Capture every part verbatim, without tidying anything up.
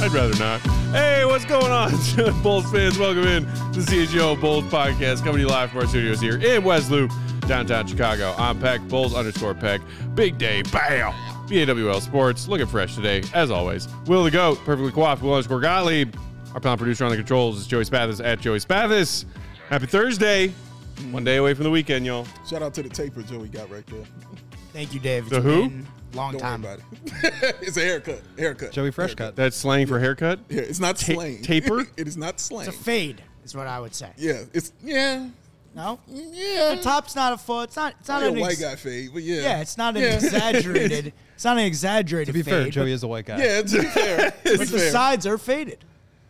I'd rather not. Hey, what's going on, Bulls fans? Welcome in to the C H G O Bulls podcast, coming to you live from our studios here in West Loop, downtown Chicago. I'm Peck, Bulls underscore Peck. Big day, bam! B A W L Sports, looking fresh today, as always. Will the GOAT, perfectly coiffed, Will underscore Gottlieb. Our pound producer on the controls is Joey Spathis at Joey Spathis. Happy Thursday. One day away from the weekend, y'all. Shout out to the taper Joey got right there. Thank you, Dave. The who? Long Don't time. worry about it. It's a haircut. Haircut. Joey Fresh haircut. Cut. That's slang for haircut? Yeah, it's not Ta- slang. taper? It is not slang. It's a fade, is what I would say. Yeah, it's yeah, No? yeah. The top's not a full. It's not. It's not Not an a white ex- guy fade, but yeah. Yeah, it's not an Yeah. exaggerated. It's not an exaggerated. To be fade, fair, but- Joey is a white guy. Yeah, to be fair. To be But the fair. sides are faded.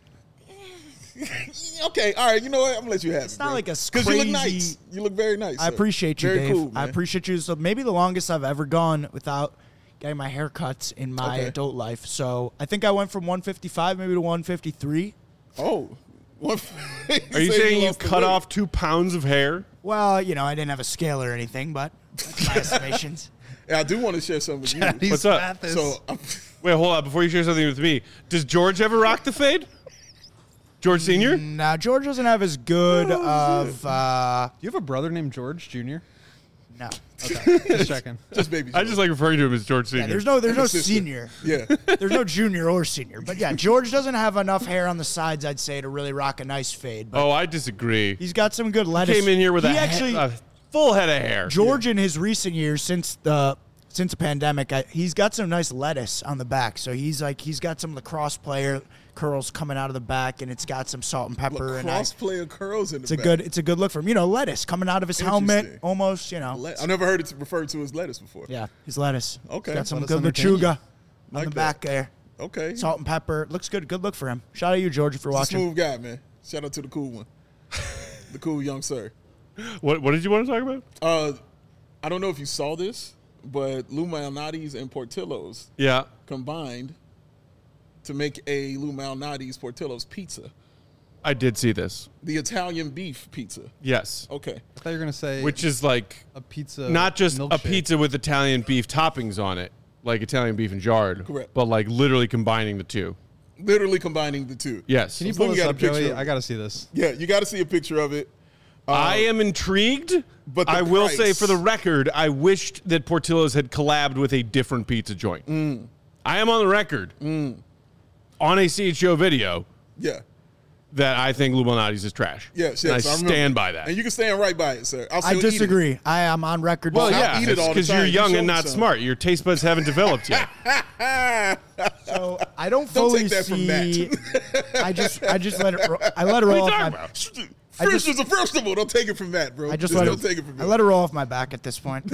Okay, all right. You know what? I'm gonna let you have it. It's not like a because you look crazy- nice. You look very nice. I sir. appreciate you, very Dave. Cool, man. I appreciate you. So maybe the longest I've ever gone without getting my hair cuts in my Okay. adult life. So I think I went from one fifty-five maybe to one fifty-three. Oh, One- Are you saying you lost the cut weight. off two pounds of hair? Well, you know, I didn't have a scale or anything, but that's my estimations. Yeah, I do want to share something with you. He's What's up? Spathis. So, I'm, Wait, hold on. Before you share something with me, does George ever rock the fade? George Senior? Now, George doesn't have as good of. Uh, Do you have a brother named George Junior? no. Okay, just checking. just baby. I just like referring to him as George Senior. Yeah, there's no, there's And no a sister. senior. Yeah. There's no junior or senior. But yeah, George doesn't have enough hair on the sides, I'd say, to really rock a nice fade. But Oh, I disagree. he's got some good lettuce. Came in here with he a, actually he- a full head of hair. George in his recent years since the since the pandemic, I, he's got some nice lettuce on the back. So he's like he's got some lacrosse player curls coming out of the back, and it's got some salt and pepper. and I, Cross player curls in the it's a back. good it's a good look for him. You know, lettuce coming out of his helmet, Interesting. almost. You know, Le- I never heard it referred to as lettuce before. yeah, his lettuce. Okay. He's got some Lettuce good entertaining. lechuga on Like the that. back there. Okay. Salt and pepper. Looks good. Good look for him. Shout out to you, George, if you're He's a watching. smooth guy, man. Shout out to the cool one. The cool young sir. What, what did you want to talk about? Uh, I don't know if you saw this, but Lou Malnati's and Portillo's Yeah. combined to make a Lou Malnati's Portillo's pizza. I did see this. The Italian beef pizza. Yes. Okay. I thought you were gonna say Which is like a pizza, not just a milkshake. pizza with Italian beef toppings on it, like Italian beef and jarred. Correct. But like literally combining the two. Literally combining the two. Yes. Can you So pull you this got a up, picture Joey? of it. I gotta see this. Yeah, you got to see a picture of it. Uh, I am intrigued, but the I will price- say for the record, I wished that Portillo's had collabed with a different pizza joint. Mm. I am on the record on a C H O video Yeah. that I think Lou Malnati's is trash. Yes, And yes. I remember. stand by that. And you can stand right by it, sir. I'll I still eat it. disagree. I am on record. Well, I'll yeah, eat it all the because you're time. You young show and me not some. smart. Your taste buds haven't developed yet. So I don't Don't fully take that from see. Matt. I just I just let it. Ro- I let it roll What are off you my. talking about? I First just- is a vegetable. Don't take it from Matt, bro. I just Just let don't it. take it from I me. let it roll off my back at this point.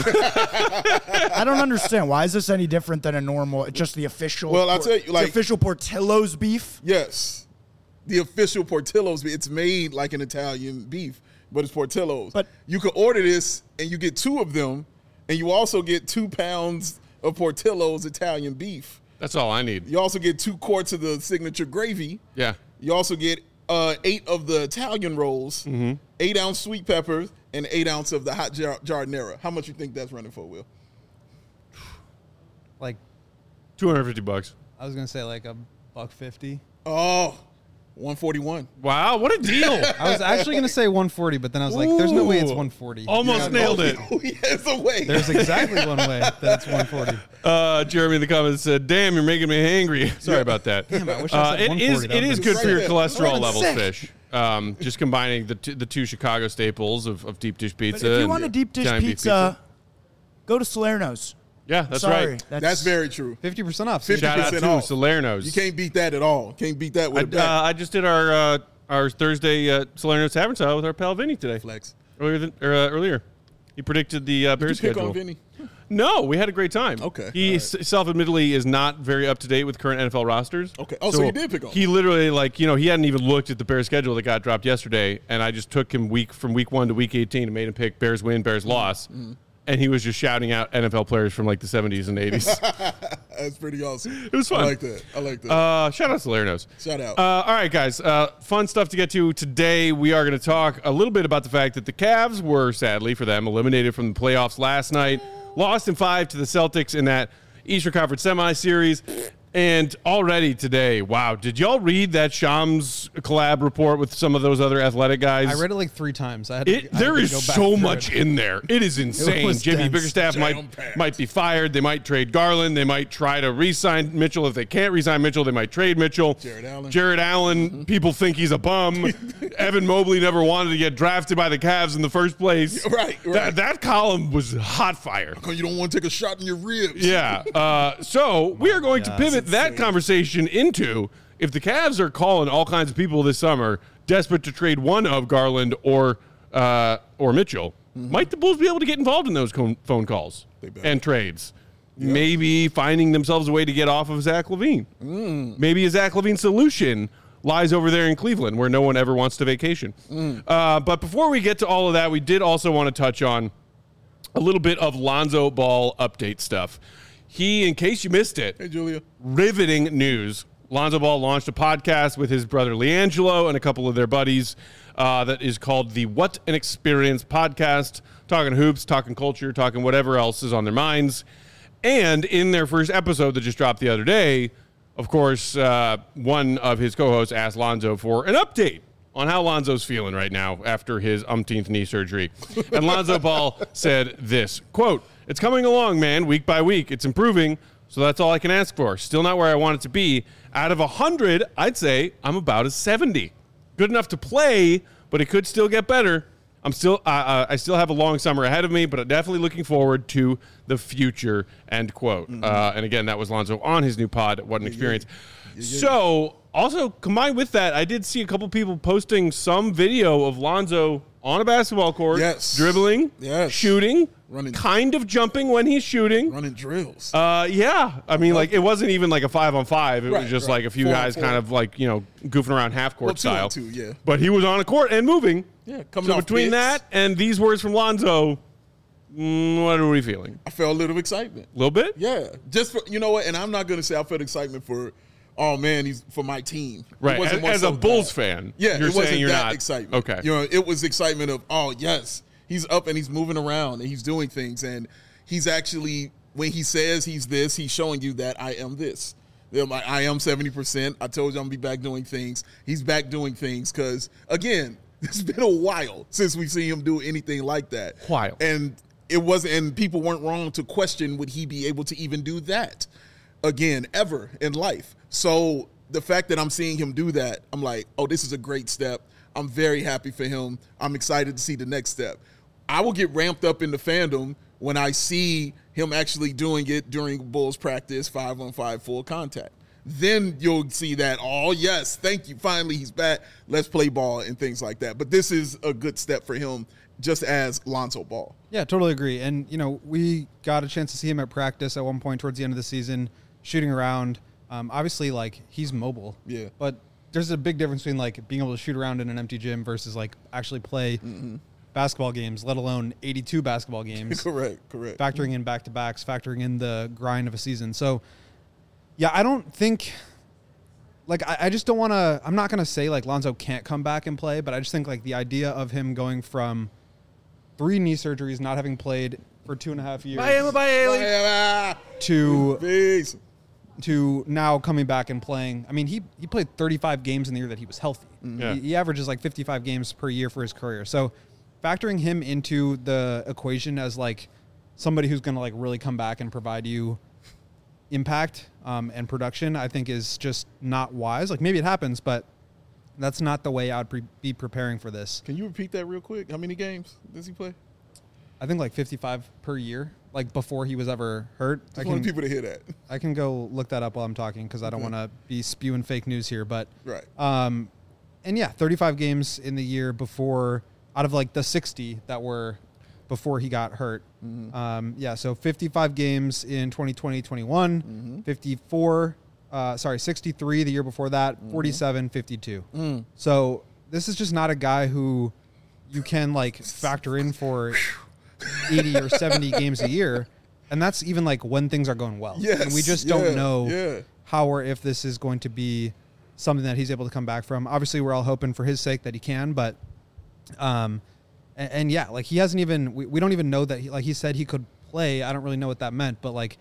I don't understand why is this any different than a normal. Just the official. Well, I'll tell you, the like- official Portillo's beef. Yes. The official Portillo's, it's made like an Italian beef, but it's Portillo's. But- you can order this, and you get two of them, and you also get two pounds of Portillo's Italian beef. That's all I need. You also get two quarts of the signature gravy. Yeah. You also get uh, eight of the Italian rolls, Mm-hmm. eight ounce sweet peppers, and eight ounce of the hot jar- giardiniera. How much you think that's running for, Will? Like two hundred fifty bucks. I was gonna say like a buck fifty. Oh, one forty-one. Wow, what a deal. I was actually gonna say one forty, but then I was like, "There's no way it's Ooh. one forty." Almost Yeah, nailed it. Oh, yeah, it's a way. There's exactly one way that it's one forty. Uh, Jeremy in the comments said, "Damn, you're making me hangry." Sorry about that. Damn, I wish I Uh, said it one is forty. it is That good right for your there. cholesterol I'm levels, sick. fish. Um, just combining the two, the two Chicago staples of, of deep dish But pizza. if you and want a deep dish Italian beef pizza, go to Salerno's. yeah, that's Sorry, right. That's very true. fifty percent off. fifty Shout out percent to off. Salerno's. You can't beat that at all. Can't beat that with I, a back. uh, I just did our uh, our Thursday uh, Salerno's Tavern style with our pal Vinny today. Flex. Earlier than or, uh, earlier, he predicted the uh, Did you Bears pick schedule. on Vinny? No, we had a great time. Okay, He all s- self-admittedly is not very up to date with current N F L rosters. Okay. Oh, so you did pick on He him. literally, like, you know, he hadn't even looked at the Bears schedule that got dropped yesterday, and I just took him week from week one to week eighteen and made him pick Bears win, Bears loss. Mm-hmm. And he was just shouting out N F L players from like the seventies and eighties. That's pretty awesome. It was fun. I like that. I like that. Uh, shout out to Salerno's. Shout out. Uh, all right, guys. Uh, fun stuff to get to today. We are going to talk a little bit about the fact that the Cavs were, sadly for them, eliminated from the playoffs last night. Lost in five to the Celtics in that Eastern Conference semi-series. And already today, wow, did y'all read that Shams collab report with some of those other athletic guys? I read it like three times. I had to, It, I had there to is go back so through much it. in there. It is insane. was Jimmy dense. Bickerstaff might Jam-packed. might be fired. They might trade Garland. They might try to re-sign Mitchell. If they can't re-sign Mitchell, they might trade Mitchell. Jared Allen. Jared Allen. Mm-hmm. People think he's a bum. Evan Mobley never wanted to get drafted by the Cavs in the first place. Right, right. That, that column was hot fire. Oh, you don't want to take a shot in your ribs. Yeah. Uh, so we are going to God. pivot that conversation into if the Cavs are calling all kinds of people this summer, desperate to trade one of Garland or uh, or Mitchell, Mm-hmm. might the Bulls be able to get involved in those co- phone calls better. and trades? Maybe finding themselves a way to get off of Zach LaVine. Mm. Maybe a Zach LaVine solution lies over there in Cleveland where no one ever wants to vacation. Mm. Uh, but before we get to all of that, we did also want to touch on a little bit of Lonzo Ball update stuff. He, in case you missed it, Hey, Julia. riveting news. Lonzo Ball launched a podcast with his brother LiAngelo and a couple of their buddies uh, that is called the What an Experience podcast, talking hoops, talking culture, talking whatever else is on their minds. And in their first episode that just dropped the other day, of course, uh, one of his co-hosts asked Lonzo for an update on how Lonzo's feeling right now after his umpteenth knee surgery. And Lonzo Ball said this, quote, "It's coming along, man, week by week. It's improving, so that's all I can ask for. Still not where I want it to be. Out of one hundred, I'd say I'm about a seventy. Good enough to play, but it could still get better. I'm still, uh, uh, I still have a long summer ahead of me, but I'm definitely looking forward to the future," end quote. Mm-hmm. Uh, and again, that was Lonzo on his new pod, What an Experience. Yeah, yeah. So, also combined with that, I did see a couple people posting some video of Lonzo on a basketball court, Yes. dribbling, Yes. shooting, Running. kind of jumping when he's shooting. Running drills. Uh, yeah. I mean, like, it wasn't even like a five on five. It Right, was just right. like a few Four on guys four. kind of like, you know, goofing around half court Well, two style. on two, yeah. But he was on a court and moving. Yeah, coming So off between picks. that and these words from Lonzo, mm, what are we feeling? I felt a little excitement. A little bit? Yeah, just for, you know what, and I'm not gonna say I felt excitement for, oh man, he's for my team. It Right. wasn't As, more as so a Bulls that. fan, Yeah, you're it wasn't saying you're that not excitement. Okay. You know, it was excitement of, oh yes, he's up and he's moving around and he's doing things and he's actually, when he says he's this, he's showing you that I am this. They're like, I am seventy percent. I told you I'm gonna be back doing things. He's back doing things because again, it's been a while since we've seen him do anything like that. While. And it wasn't, and people weren't wrong to question would he be able to even do that again ever in life. So the fact that I'm seeing him do that, I'm like, oh, this is a great step. I'm very happy for him. I'm excited to see the next step. I will get ramped up in the fandom when I see him actually doing it during Bulls practice, five on five full contact. Then you'll see that, oh, yes, thank you. Finally, he's back. Let's play ball and things like that. But this is a good step for him just as Lonzo Ball. Yeah, totally agree. And, you know, we got a chance to see him at practice at one point towards the end of the season, shooting around. Um, obviously, like, he's mobile. Yeah. But there's a big difference between, like, being able to shoot around in an empty gym versus, like, actually play mm-hmm. basketball games, let alone eighty-two basketball games. Correct, correct. Factoring in back-to-backs, factoring in the grind of a season. So, yeah, I don't think – like, I, I just don't want to – I'm not going to say, like, Lonzo can't come back and play, but I just think, like, the idea of him going from three knee surgeries, not having played for two and a half years Bye, bye, Haley. to Peace. to now coming back and playing. I mean, he, he played thirty-five games in the year that he was healthy. Yeah. He, he averages like fifty-five games per year for his career. So factoring him into the equation as like somebody who's going to like really come back and provide you impact um, and production, I think is just not wise. Like maybe it happens, but that's not the way I'd pre- be preparing for this. Can you repeat that real quick? How many games does he play? I think like fifty-five per year, like before he was ever hurt. I I want can, people to hear that. I can go look that up while I'm talking because I don't Okay. want to be spewing fake news here. But Right. um, and yeah, thirty-five games in the year before, out of like the sixty that were before he got hurt. Mm-hmm. Um, yeah, so fifty-five games in twenty twenty, twenty-one, Mm-hmm. fifty-four, uh, sorry, sixty-three the year before that, Mm-hmm. forty-seven, fifty-two. Mm. So this is just not a guy who you can like factor in for eighty or seventy games a year. And that's even like when things are going well. Yes, And we just yeah, don't know yeah. how or if this is going to be something that he's able to come back from. Obviously, we're all hoping for his sake that he can, but um, and, and yeah, like he hasn't even, we, we don't even know that he, like he said he could play. I don't really know what that meant, but like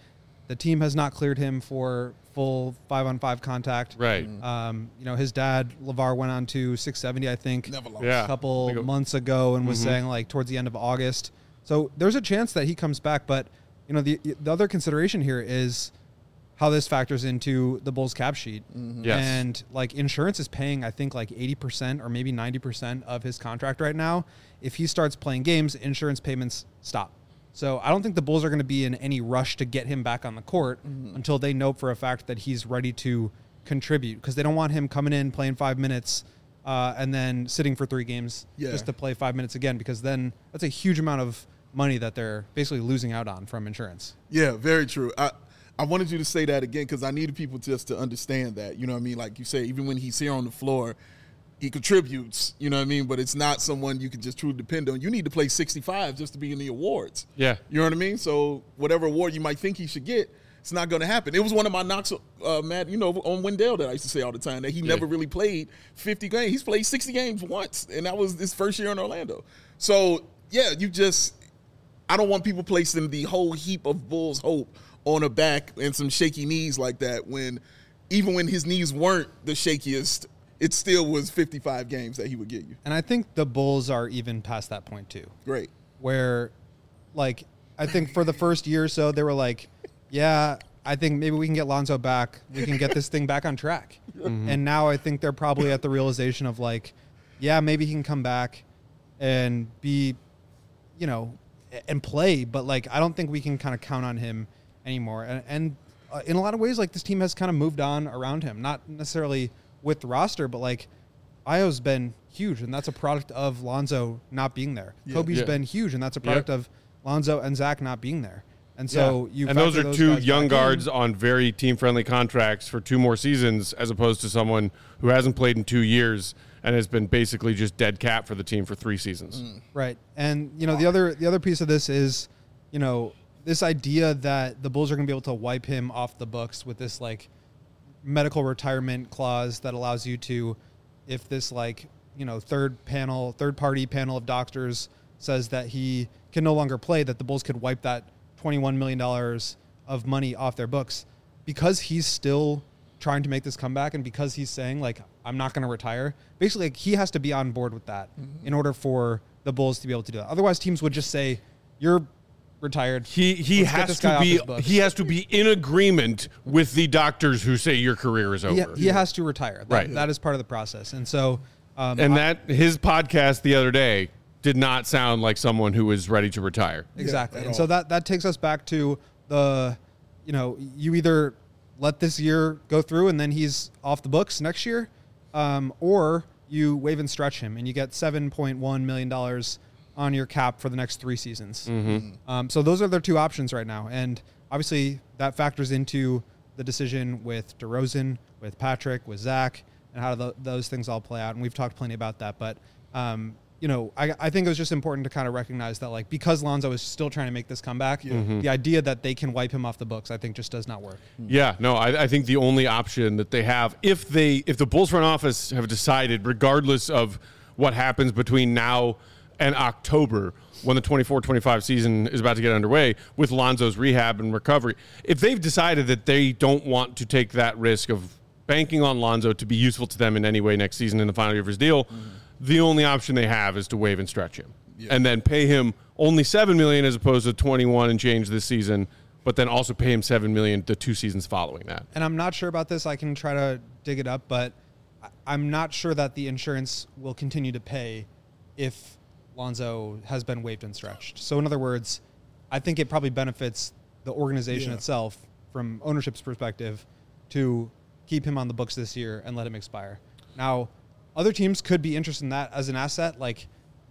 The team has not cleared him for full five-on-five contact. Right. Um, you know, his dad, LeVar, went on to six seventy, I think, Never lost. Yeah. a couple Think of- months ago and was Mhm. saying, like, towards the end of August. So there's a chance that he comes back. But, you know, the the other consideration here is how this factors into the Bulls cap sheet. Yes. And, like, insurance is paying, I think, like eighty percent or maybe ninety percent of his contract right now. If he starts playing games, insurance payments stop. So I don't think the Bulls are going to be in any rush to get him back on the court Mm-hmm. until they know for a fact that he's ready to contribute, because they don't want him coming in, playing five minutes, uh, and then sitting for three games Yeah. just to play five minutes again, because then that's a huge amount of money that they're basically losing out on from insurance. Yeah, very true. I, I wanted you to say that again because I needed people just to understand that. You know what I mean? Like you say, even when he's here on the floor, he contributes, you know what I mean? But it's not someone you can just truly depend on. You need to play sixty-five just to be in the awards. Yeah. You know what I mean? So whatever award you might think he should get, it's not going to happen. It was one of my knocks, uh, Matt, you know, on Wendell that I used to say all the time, that he Yeah. never really played fifty games. He's played sixty games once, and that was his first year in Orlando. So, yeah, you just – I don't want people placing the whole heap of Bulls hope on a back and some shaky knees like that when even when his knees weren't the shakiest – it still was fifty-five games that he would get you. And I think the Bulls are even past that point too. Great. Where, like, I think for the first year or so, they were like, yeah, I think maybe we can get Lonzo back. We can get this thing back on track. Mm-hmm. And now I think they're probably at the realization of, like, yeah, maybe he can come back and be, you know, and play. But, like, I don't think we can kind of count on him anymore. And, and uh, in a lot of ways, like, this team has kind of moved on around him. Not necessarily with the roster, but, like, Io's been huge, and that's a product of Lonzo not being there. Yeah. Kobe's Yeah. been huge, and that's a product Yeah. of Lonzo and Zach not being there. And so Yeah. you and those factor are two guys young back in. guards on very team-friendly contracts for two more seasons, as opposed to someone who hasn't played in two years and has been basically just dead cap for the team for three seasons. Right. And, you know, the other the other piece of this is, you know, this idea that the Bulls are going to be able to wipe him off the books with this, like, medical retirement clause that allows you to, if this, like, you know, third panel, third party panel of doctors says that he can no longer play, that the Bulls could wipe that twenty-one million dollars of money off their books, because he's still trying to make this comeback. And because he's saying, like, I'm not going to retire, basically, like, he has to be on board with that Mm-hmm. in order for the Bulls to be able to do that. Otherwise, teams would just say, you're retired. He he Let's get has this guy to off be his books. he has to be in agreement with the doctors who say your career is over. He, he has to retire. That, Right. That is part of the process. And so, um, And I- that his podcast the other day did not sound like someone who was ready to retire. exactly. at And so all. that, that takes us back to the, you know, you either let this year go through and then he's off the books next year, um, or you waive and stretch him and you get seven point one million dollars on your cap for the next three seasons. Mm-hmm. Um, so those are their two options right now. And obviously that factors into the decision with DeRozan, with Patrick, with Zach, and how th- those things all play out. And we've talked plenty about that. But, um, you know, I, I think it was just important to kind of recognize that, like, because Lonzo is still trying to make this comeback, Mm-hmm. the idea that they can wipe him off the books, I think, just does not work. Yeah, no, I, I think the only option that they have, if they if the Bulls front office have decided, regardless of what happens between now and October, when the twenty-four twenty-five season is about to get underway with Lonzo's rehab and recovery, if they've decided that they don't want to take that risk of banking on Lonzo to be useful to them in any way next season in the final year of his deal, mm-hmm. the only option they have is to waive and stretch him. Yeah. And then pay him only seven million dollars as opposed to twenty-one and change this season, but then also pay him seven million dollars the two seasons following that. And I'm not sure about this. I can try to dig it up, but I- I'm not sure that the insurance will continue to pay if Lonzo has been waived and stretched. So in other words, I think it probably benefits the organization Yeah. itself from ownership's perspective to keep him on the books this year and let him expire. Now, other teams could be interested in that as an asset, like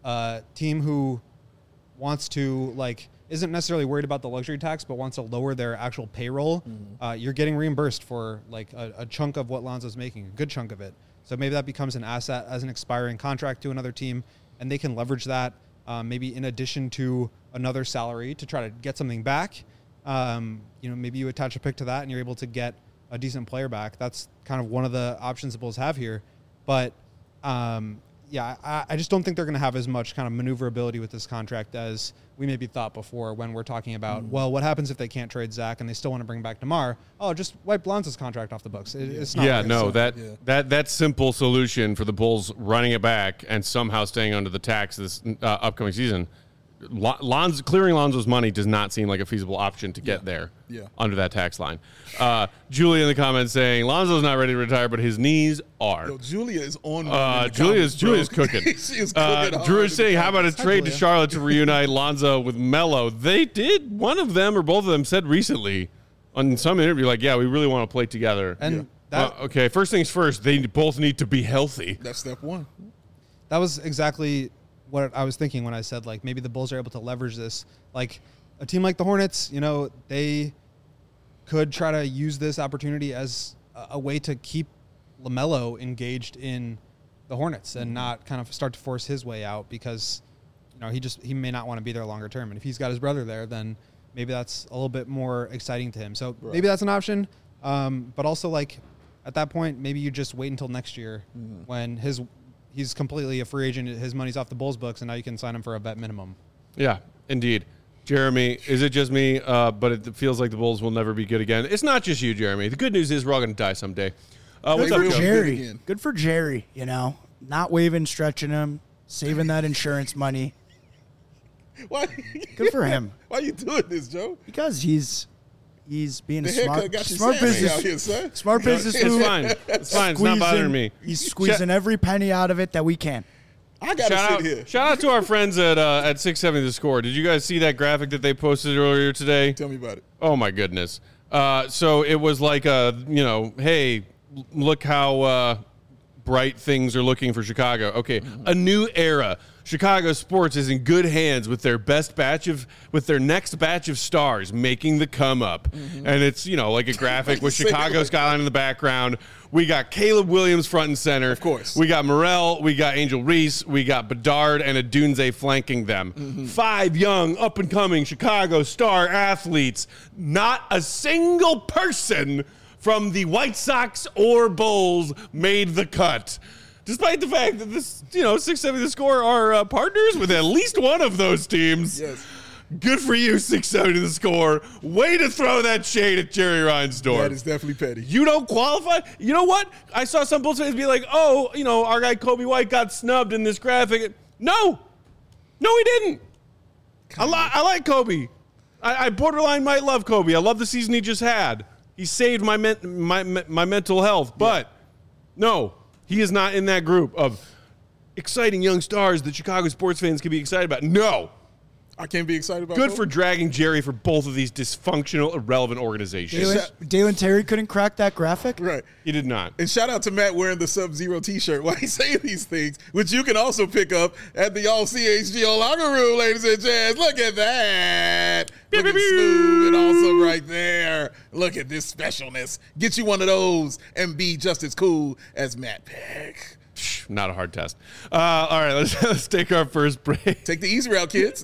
a team who wants to, like, isn't necessarily worried about the luxury tax, but wants to lower their actual payroll. Mm-hmm. Uh, you're getting reimbursed for, like, a, a chunk of what Lonzo's making, a good chunk of it. So maybe that becomes an asset as an expiring contract to another team, and they can leverage that um, maybe in addition to another salary to try to get something back. Um, you know, maybe you attach a pick to that and you're able to get a decent player back. That's kind of one of the options the Bulls have here. But, um, yeah, I, I just don't think they're going to have as much kind of maneuverability with this contract as we maybe thought before when we're talking about, mm. well, what happens if they can't trade Zach and they still want to bring back DeMar? Oh, just wipe Lonzo's contract off the books. It, it's not. Yeah, like no, so. that yeah. that that simple solution for the Bulls running it back and somehow staying under the tax this uh, upcoming season. Lonzo, clearing Lonzo's money does not seem like a feasible option to get yeah. there yeah. under that tax line. Uh, Julia in the comments saying Lonzo's not ready to retire, but his knees are. Yo, Julia is on. Uh, Julia's Julia's cooking. she is cooking. Uh, Drew is saying, "How about a trade to Julia. Charlotte to reunite Lonzo with Melo?" They did. One of them or both of them said recently on some interview, like, "Yeah, we really want to play together." And Yeah. that, Well, okay, first things first. They both need to be healthy. That's step one. that was exactly what I was thinking when I said, like, maybe the Bulls are able to leverage this. Like, a team like the Hornets, you know, they could try to use this opportunity as a, a way to keep LaMelo engaged in the Hornets and not kind of start to force his way out because, you know, he just he may not want to be there longer term. And if he's got his brother there, then maybe that's a little bit more exciting to him. So Right. maybe that's an option. Um, but also, like, at that point, maybe you just wait until next year Mm-hmm. when his he's completely a free agent. His money's off the Bulls books, and now you can sign him for a vet minimum. Yeah, indeed. Jeremy, is it just me? Uh, but it feels like the Bulls will never be good again. It's not just you, Jeremy. The good news is we're all going to die someday. Uh, Good what's up, for real Joe? good Jerry. again. Good for Jerry. You know, not waving, stretching him, saving that insurance money. Why? Good for him. Why you doing this, Joe? Because he's he's being The a haircut smart, got you smart sassy business, out here, son. smart business It's move. fine. It's fine. It's not bothering me. He's squeezing every penny out of it that we can. I gotta Shout sit out, here. shout out to our friends at uh, at six seventy The Score. Did you guys see that graphic that they posted earlier today? Tell me about it. Oh my goodness. Uh, so it was like a, you know, hey, l- look how uh, bright things are looking for Chicago. Okay, a new era. Chicago sports is in good hands with their best batch of, with their next batch of stars making the come up. And it's, you know, like a graphic with Say it Chicago like skyline in the background. We got Caleb Williams front and center. Of course. We got Morrell, we got Angel Reese, we got Bedard and Adunze flanking them. Five young, up-and-coming Chicago star athletes. Not a single person from the White Sox or Bulls made the cut. Despite the fact that this, you know, six seventy The Score are uh, partners with at least one of those teams. Yes. Good for you, six seventy The Score. Way to throw that shade at Jerry Reinsdorf. That is definitely petty. You don't qualify? You know what? I saw some Bulls fans be like, oh, you know, our guy Kobe White got snubbed in this graphic. No. No, he didn't. I, li- I like Kobe. I-, I borderline might love Kobe. I love the season he just had. He saved my men- my, my my mental health. But no, he is not in that group of exciting young stars that Chicago sports fans can be excited about. No. I can't be excited about Good Kobe. for dragging Jerry for both of these dysfunctional, irrelevant organizations. Dalen, Dalen Terry couldn't crack that graphic. Right. He did not. And shout out to Matt wearing the Sub-Zero t-shirt while he's saying these things, which you can also pick up at the All C H G O locker room, ladies and gents. Look at that. Pew, Looking pew, pew. smooth and awesome right there. Look at this specialness. Get you one of those and be just as cool as Matt Peck. Not a hard test. Uh, all right, let's, let's take our first break. Take the easy route, kids.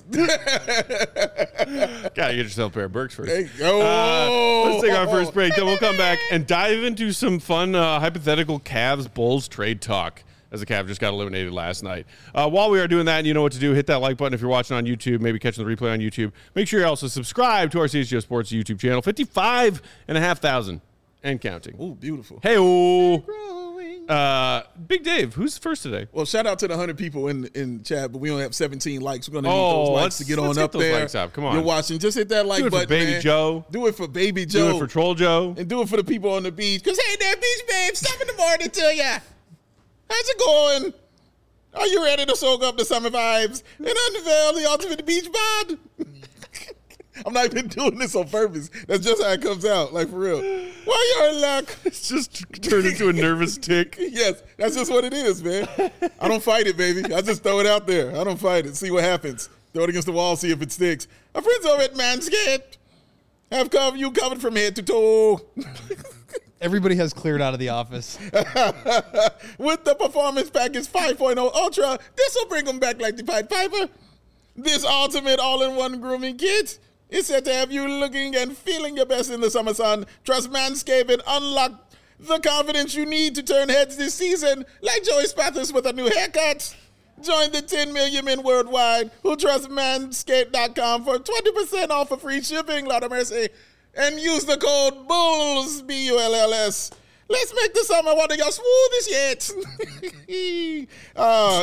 Gotta get yourself a pair of Birks first. There you go. Uh, let's take our first break, then we'll come back and dive into some fun uh, hypothetical Cavs-Bulls trade talk, as the Cavs just got eliminated last night. Uh, while we are doing that, and you know what to do, hit that like button if you're watching on YouTube, maybe catching the replay on YouTube. Make sure you also subscribe to our C H G O Sports YouTube channel, fifty-five and a half thousand and counting. Ooh, beautiful. Hey, uh, Big Dave, who's first today? Well, shout out to the one hundred people in in chat, but we only have seventeen likes. We're going to need Oh, those likes let's- to get let's on get up those there. likes up. Come on. You're watching. Just hit that like Do it for button, Baby man. Joe. Do it for Baby Joe. Do it for Troll Joe. And do it for the people on the beach. Because, hey there, beach babe, seven in the morning to ya. How's it going? Are you ready to soak up the summer vibes and unveil the ultimate beach bod? I'm not even doing this on purpose. That's just how it comes out, like for real. Well, you're in luck. It's just turned into a nervous tick. Yes, that's just what it is, man. I don't fight it, baby. I just throw it out there. I don't fight it. See what happens. Throw it against the wall, see if it sticks. Our friends over at Manscaped have covered you covered from head to toe. Everybody has cleared out of the office. With the Performance Package five point oh Ultra, this will bring them back like the Pied Piper. This ultimate all-in-one grooming kit is set to have you looking and feeling your best in the summer sun. Trust Manscaped and unlock the confidence you need to turn heads this season, like Joey Spathis with a new haircut. Join the ten million men worldwide who trust manscaped dot com for twenty percent off of free shipping, Lord of mercy, and use the code BULLS, B U L L S. Let's make the summer one of your smoothest yet. uh,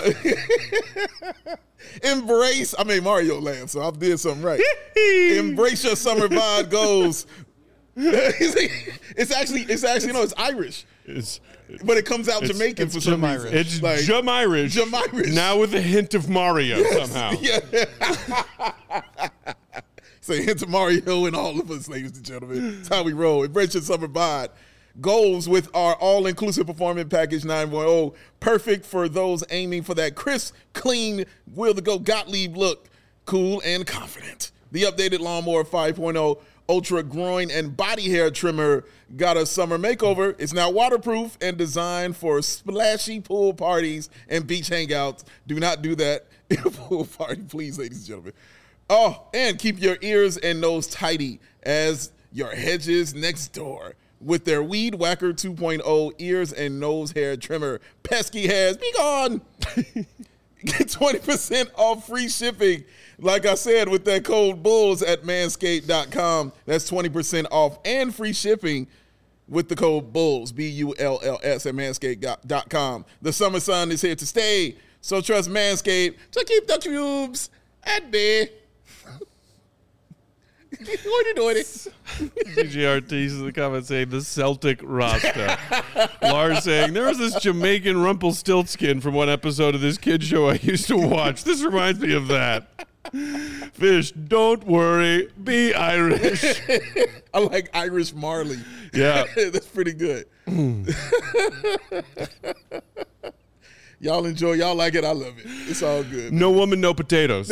embrace, I made Mario laugh, so I did something right. Embrace your summer vibe goals. it's actually, it's actually, no, it's Irish. It's, but it comes out Jamaican for some reason. It's like, Jamirish. Jamirish. Now with a hint of Mario yes, somehow. Yeah. Say hint of Mario and all of us, ladies and gentlemen. That's how we roll. Embrace your summer vibe. Goals with our all-inclusive performance package nine point oh. Perfect for those aiming for that crisp, clean, will-to-go Gottlieb look. Cool and confident. The updated Lawnmower five point oh Ultra Groin and Body Hair Trimmer got a summer makeover. It's now waterproof and designed for splashy pool parties and beach hangouts. Do not do that in a pool party, please, ladies and gentlemen. Oh, and keep your ears and nose tidy as your hedges next door with their Weed Whacker two point oh ears and nose hair trimmer. Pesky hairs, be gone. Get twenty percent off free shipping. Like I said, with that code BULLS at manscaped dot com. That's twenty percent off and free shipping with the code BULLS, B U L L S, at manscaped dot com. The summer sun is here to stay, so trust Manscaped to keep the cubes at bay. What are you doing? C G R T is in the comments saying the Celtic roster. Lars saying there was this Jamaican Rumpelstiltskin from one episode of this kid show I used to watch. This reminds me of that. Fish, don't worry, be Irish. I like Irish Marley. Yeah. That's pretty good. Y'all enjoy. Y'all like it. I love it. It's all good. No woman, no potatoes.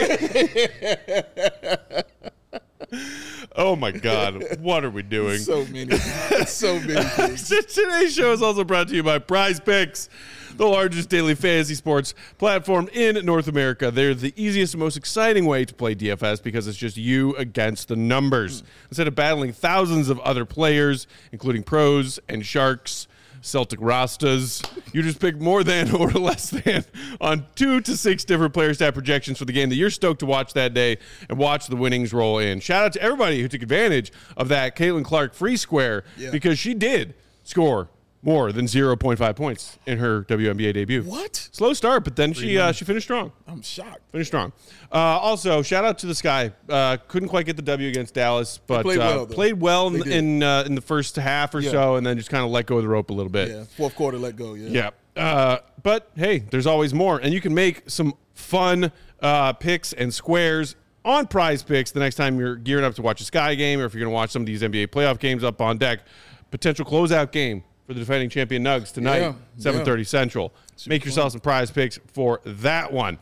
Oh my God, what are we doing? So many, so many things. Today's show is also brought to you by Prize Picks, the largest daily fantasy sports platform in North America. They're the easiest and most exciting way to play D F S because it's just you against the numbers. Mm. Instead of battling thousands of other players, including pros and sharks, Celtic Rastas, you just pick more than or less than on two to six different player stat projections for the game that you're stoked to watch that day and watch the winnings roll in. Shout out to everybody who took advantage of that Caitlin Clark free square yeah. because she did score more than zero point five points in her W N B A debut. What? Slow start, but then she uh, she finished strong. I'm shocked. Finished strong. Uh, also, shout out to the Sky. Uh, couldn't quite get the W against Dallas, but played uh, well, played well in in, uh, in the first half or yeah. so, and then just kind of let go of the rope a little bit. Yeah, fourth quarter let go, yeah. Yeah. Uh, but, hey, there's always more, and you can make some fun uh, picks and squares on Prize Picks the next time you're gearing up to watch a Sky game or if you're going to watch some of these N B A playoff games up on deck. Potential closeout game for the defending champion Nugs tonight, yeah, seven thirty yeah. Central. Super Make yourself fun. some Prize Picks for that one.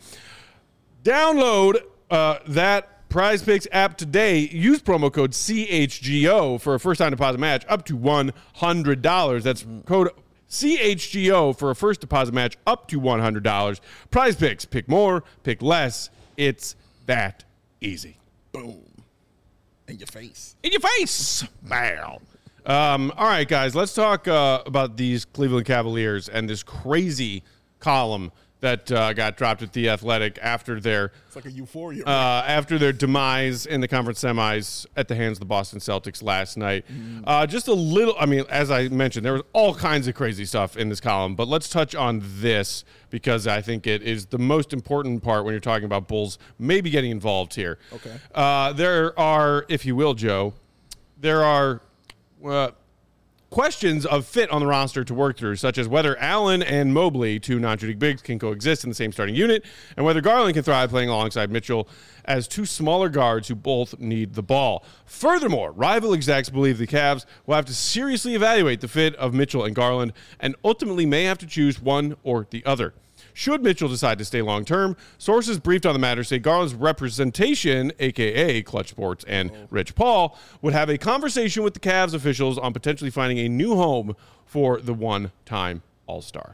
Download uh, that Prize Picks app today. Use promo code C H G O for a first-time deposit match up to one hundred dollars. That's mm. code C H G O for a first deposit match up to one hundred dollars. Prize Picks. Pick more, pick less. It's that easy. Boom. In your face. In your face. Bam. Um, all right, guys, let's talk uh, about these Cleveland Cavaliers and this crazy column that uh, got dropped at The Athletic after their it's like a euphoria uh, after their demise in the conference semis at the hands of the Boston Celtics last night. Mm. Uh, just a little, I mean, as I mentioned, there was all kinds of crazy stuff in this column, but let's touch on this because I think it is the most important part when you're talking about Bulls maybe getting involved here. Okay. Uh, there are, if you will, Joe, there are Uh, questions of fit on the roster to work through, such as whether Allen and Mobley, two non-shooting bigs, can coexist in the same starting unit, and whether Garland can thrive playing alongside Mitchell as two smaller guards who both need the ball. Furthermore, rival execs believe the Cavs will have to seriously evaluate the fit of Mitchell and Garland and ultimately may have to choose one or the other. Should Mitchell decide to stay long-term, sources briefed on the matter say Garland's representation, a k a. Clutch Sports and oh. Rich Paul, would have a conversation with the Cavs officials on potentially finding a new home for the one-time All-Star.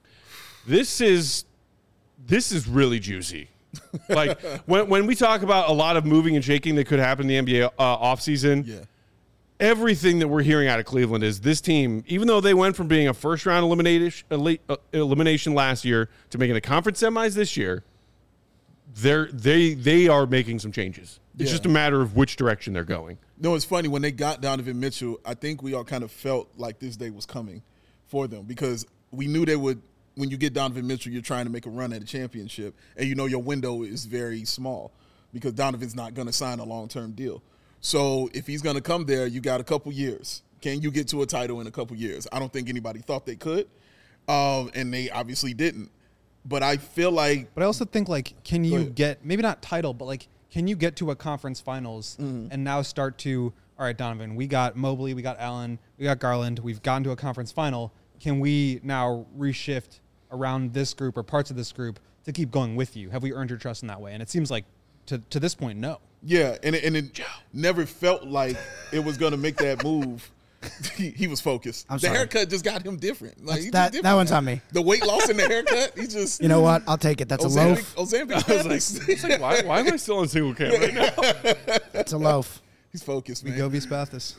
This is this is really juicy. Like, when when we talk about a lot of moving and shaking that could happen in the N B A uh, offseason, yeah. everything that we're hearing out of Cleveland is this team, even though they went from being a first round elimination elimination last year to making the conference semis this year, they're they they are making some changes. It's Yeah. just a matter of which direction they're going. No, it's funny when they got Donovan Mitchell. I think we all kind of felt like this day was coming for them because we knew they would. When you get Donovan Mitchell, you're trying to make a run at a championship, and you know your window is very small because Donovan's not going to sign a long-term deal. So if he's going to come there, you got a couple years. Can you get to a title in a couple years? I don't think anybody thought they could, um, and they obviously didn't. But I feel like, But I also think, like, can you ahead. get, maybe not title, but, like, can you get to a conference finals Mm-hmm. and now start to, all right, Donovan, we got Mobley, we got Allen, we got Garland, we've gotten to a conference final. Can we now reshift around this group or parts of this group to keep going with you? Have we earned your trust in that way? And it seems like to, to this point, no. yeah, and it, and it never felt like it was going to make that move. he, he was focused. I'm the sorry. haircut just got him different. Like, he's just that different that one's now. on me. The weight loss and the haircut, he just. You know what? I'll take it. That's a Ozempic, loaf. Ozempic. I was like, I was like why, why am I still on single cam right now? It's a loaf. He's focused, man. Govi Spathis.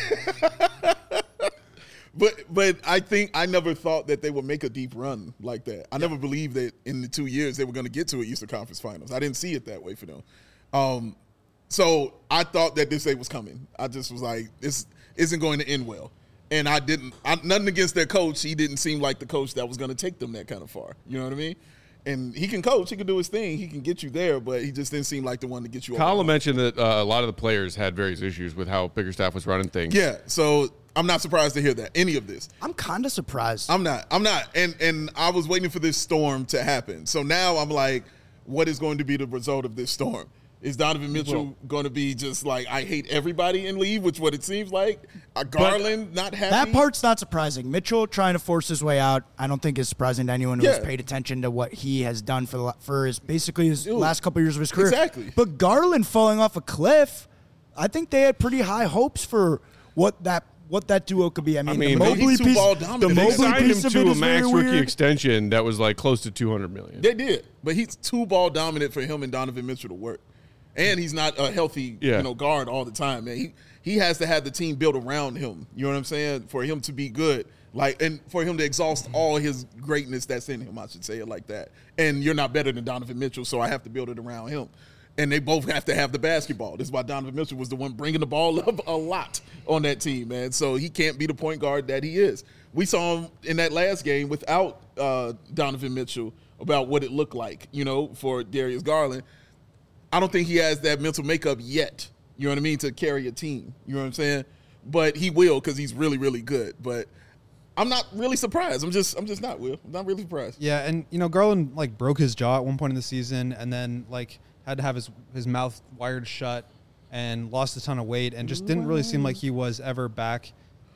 But but I think I never thought that they would make a deep run like that. I never believed that in the two years they were going to get to an Eastern Conference Finals. I didn't see it that way for them. Um, so I thought that this day was coming. I just was like, this isn't going to end well. And I didn't. I, nothing against their coach. He didn't seem like the coach that was going to take them that kind of far. You know what I mean? And he can coach. He can do his thing. He can get you there, but he just didn't seem like the one to get you over the Kyle line. mentioned that uh, a lot of the players had various issues with how Bickerstaff was running things. Yeah, so I'm not surprised to hear that, any of this. I'm kind of surprised. I'm not. I'm not. And and I was waiting for this storm to happen. So now I'm like, what is going to be the result of this storm? Is Donovan Mitchell Well- going to be just like, I hate everybody and leave, which what it seems like? Uh, Garland not happy? That part's not surprising. Mitchell trying to force his way out, I don't think is surprising to anyone who has Yeah. paid attention to what he has done for the la- for his basically his Dude, last couple years of his career. exactly. But Garland falling off a cliff, I think they had pretty high hopes for what that what that duo could be. I mean, mean, the they- Mobley he's too piece, ball the dominant. They They Mobley signed him piece of to it a is max very rookie weird. extension that was like close to two hundred million. They did. But he's too ball dominant for him and Donovan Mitchell to work. And he's not a healthy Yeah. you know, guard all the time, man. He he has to have the team built around him. You know what I'm saying? For him to be good. Like, and for him to exhaust all his greatness that's in him, I should say it like that. And you're not better than Donovan Mitchell, so I have to build it around him. And they both have to have the basketball. This is why Donovan Mitchell was the one bringing the ball up a lot on that team, man. So he can't be the point guard that he is. We saw him in that last game without uh, Donovan Mitchell about what it looked like, you know, for Darius Garland. I don't think he has that mental makeup yet, you know what I mean, to carry a team. You know what I'm saying? But he will because he's really, really good. But I'm not really surprised. I'm just I'm just not, Will. I'm not really surprised. Yeah, and you know, Garland like broke his jaw at one point in the season, and then like had to have his his mouth wired shut, and lost a ton of weight, and just didn't really seem like he was ever back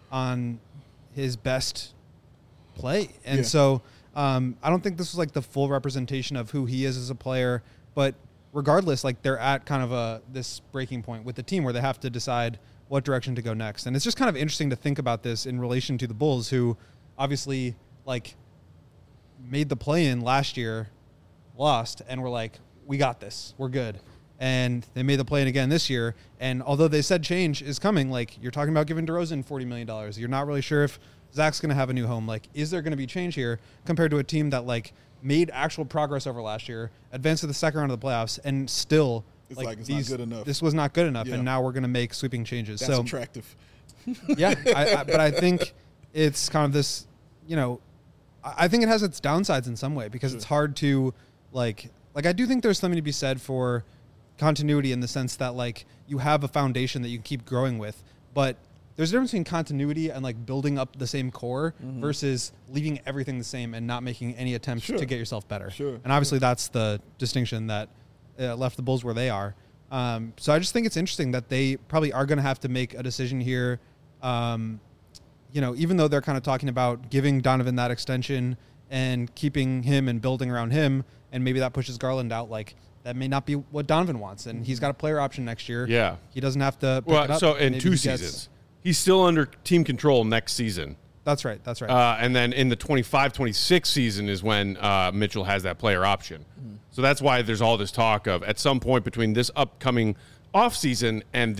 on his best play. And Yeah. so um, I don't think this was like the full representation of who he is as a player. But regardless, like they're at kind of a this breaking point with the team where they have to decide what direction to go next. And it's just kind of interesting to think about this in relation to the Bulls, who obviously like made the play-in last year, lost, and were like, we got this, we're good. And they made the play-in again this year. And although they said change is coming, like you're talking about giving DeRozan forty million dollars. You're not really sure if Zach's going to have a new home. Like, is there going to be change here compared to a team that like made actual progress over last year, advanced to the second round of the playoffs, and still It's like, like it's these, not good enough. This was not good enough, Yeah. and now we're going to make sweeping changes. That's so attractive. yeah, I, I, but I think it's kind of this, you know, I I think it has its downsides in some way because it's hard to like, like I do think there's something to be said for continuity in the sense that like you have a foundation that you can keep growing with, but there's a difference between continuity and like building up the same core versus leaving everything the same and not making any attempts Sure. to get yourself better. Sure. And obviously that's the distinction that uh, left the Bulls where they are. Um, so I just think it's interesting that they probably are going to have to make a decision here. Um, you know, even though they're kind of talking about giving Donovan that extension and keeping him and building around him, and maybe that pushes Garland out, like that may not be what Donovan wants. And he's got a player option next year. Yeah. He doesn't have to pick it Well, up. so in Maybe two he gets- seasons, he's still under team control next season. That's right. That's right. Uh, and then in the twenty-five twenty-six season is when uh, Mitchell has that player option. So that's why there's all this talk of at some point between this upcoming offseason and this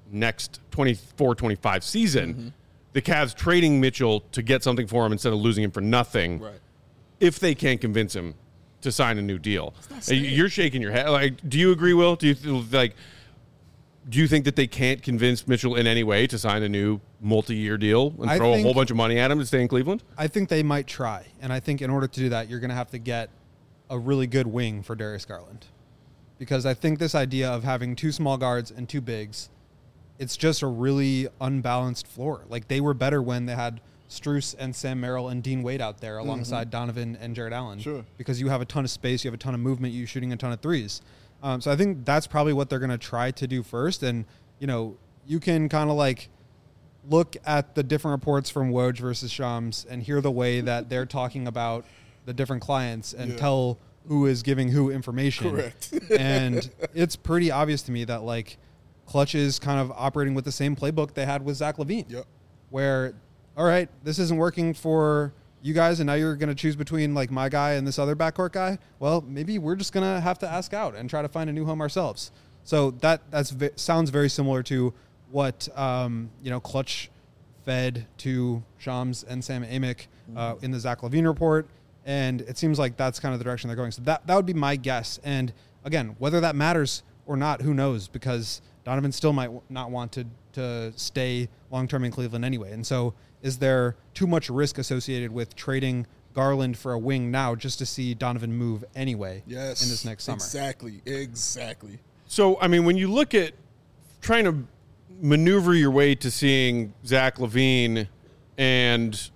next twenty-four twenty-five season, mm-hmm. the Cavs trading Mitchell to get something for him instead of losing him for nothing, right. if they can't convince him to sign a new deal. You're shaking your head. Like, do you agree, Will? Do you like? Do you think that they can't convince Mitchell in any way to sign a new multi-year deal and I throw think, a whole bunch of money at him to stay in Cleveland? I think they might try, and I think in order to do that, you're going to have to get a really good wing for Darius Garland, because I think this idea of having two small guards and two bigs, it's just a really unbalanced floor. Like, they were better when they had Strus and Sam Merrill and Dean Wade out there alongside mm-hmm. Donovan and Jared Allen. Sure. Because you have a ton of space, you have a ton of movement, you're shooting a ton of threes. Um, so I think that's probably what they're going to try to do first. And, you know, you can kind of like look at the different reports from Woj versus Shams and hear the way that they're talking about the different clients and yeah. tell who is giving who information. Correct. And it's pretty obvious to me that, like, Clutch is kind of operating with the same playbook they had with Zach LaVine. Yep. Where, all right, this isn't working for you guys, and now you're going to choose between, like, my guy and this other backcourt guy. Well, maybe we're just going to have to ask out and try to find a new home ourselves. So that that's v- sounds very similar to what, um, you know, Clutch fed to Shams and Sam Amick uh, in the Zach LaVine report. And it seems like that's kind of the direction they're going. So that, that would be my guess. And, again, whether that matters or not, who knows? Because Donovan still might not want to, to stay long-term in Cleveland anyway. And so is there too much risk associated with trading Garland for a wing now just to see Donovan move anyway yes, in this next summer? Exactly, exactly. So, I mean, when you look at trying to maneuver your way to seeing Zach LaVine and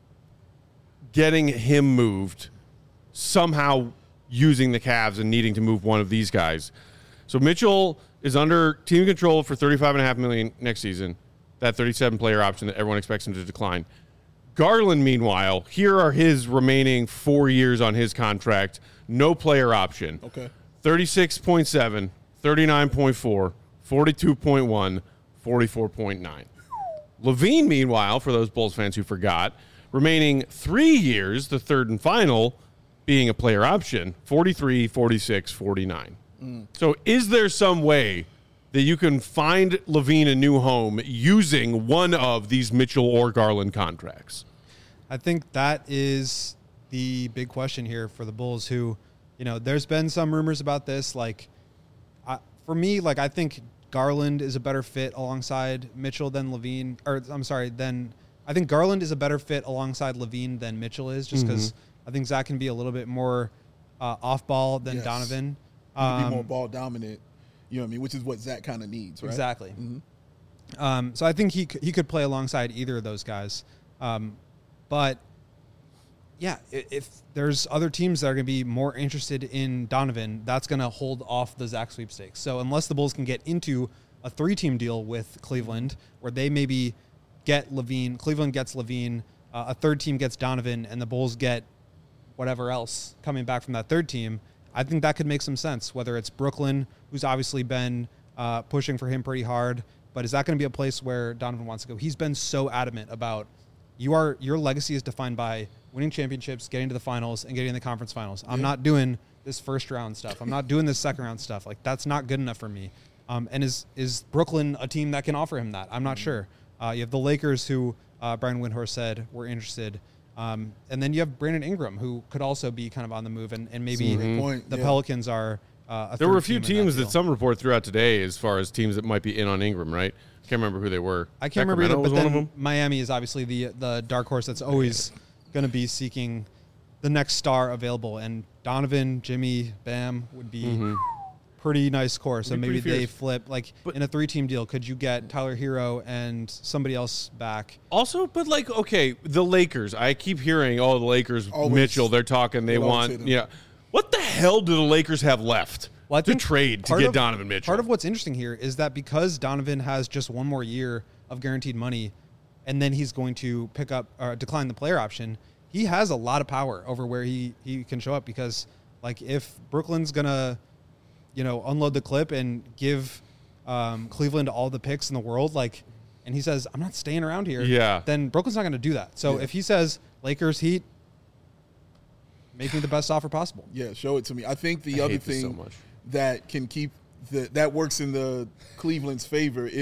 getting him moved, somehow using the Cavs and needing to move one of these guys. So Mitchell is under team control for thirty-five point five million dollars next season, that thirty-seven player option that everyone expects him to decline. Garland, meanwhile, here are his remaining four years on his contract, no player option. Okay. thirty-six point seven, thirty-nine point four, forty-two point one, forty-four point nine. LaVine, meanwhile, for those Bulls fans who forgot, remaining three years, the third and final, being a player option, forty-three, forty-six, forty-nine. Mm. So is there some way that you can find LaVine a new home using one of these Mitchell or Garland contracts? I think that is the big question here for the Bulls, who, you know, there's been some rumors about this. Like, I, for me, like, I think Garland is a better fit alongside Mitchell than LaVine, or I'm sorry, than I think Garland is a better fit alongside LaVine than Mitchell is, just because mm-hmm. I think Zach can be a little bit more uh, off ball than yes. Donovan. Um, be more ball dominant, you know what I mean, which is what Zach kind of needs, right? Exactly. Mm-hmm. Um, so I think he he could play alongside either of those guys. Um, but, yeah, if, if there's other teams that are going to be more interested in Donovan, that's going to hold off the Zach sweepstakes. So unless the Bulls can get into a three-team deal with Cleveland, where they maybe get LaVine, Cleveland gets LaVine, uh, a third team gets Donovan, and the Bulls get whatever else coming back from that third team, I think that could make some sense, whether it's Brooklyn, who's obviously been uh, pushing for him pretty hard, but is that going to be a place where Donovan wants to go? He's been so adamant about you are your legacy is defined by winning championships, getting to the finals, and getting in the conference finals. I'm yeah. not doing this first round stuff. I'm not doing this second round stuff. Like, that's not good enough for me. Um, and is is Brooklyn a team that can offer him that? I'm not mm-hmm. sure. Uh, you have the Lakers, who uh, Brian Windhorst said were interested. Um, and then you have Brandon Ingram, who could also be kind of on the move, and, and maybe mm-hmm. the yeah. Pelicans are uh, a There were a few team teams that, that some report through out today as far as teams that might be in on Ingram, right? Can't remember who they were. I can't Sacramento remember either, but then one of them? Miami is obviously the the dark horse that's always going to be seeking the next star available. And Donovan, Jimmy, Bam would be mm-hmm. pretty nice core. So It'd be maybe pretty they fierce. flip. Like, But- in a three-team deal, could you get Tyler Hero and somebody else back? Also, but like, okay, the Lakers. I keep hearing, oh, the Lakers, Always- Mitchell. They're talking. They they always say want, them. yeah. What the hell do the Lakers have left Well, I to think trade to part get of- Donovan Mitchell? Part of what's interesting here is that because Donovan has just one more year of guaranteed money, and then he's going to pick up or decline the player option, he has a lot of power over where he, he can show up. Because, like, if Brooklyn's gonna, you know, unload the clip and give um, Cleveland all the picks in the world, like, and he says, I'm not staying around here, Yeah. then Brooklyn's not going to do that. So Yeah. if he says Lakers, Heat, make me the best offer possible. Yeah, show it to me. I think the I other hate this thing so much. that can keep the, that works in the Cleveland's favor is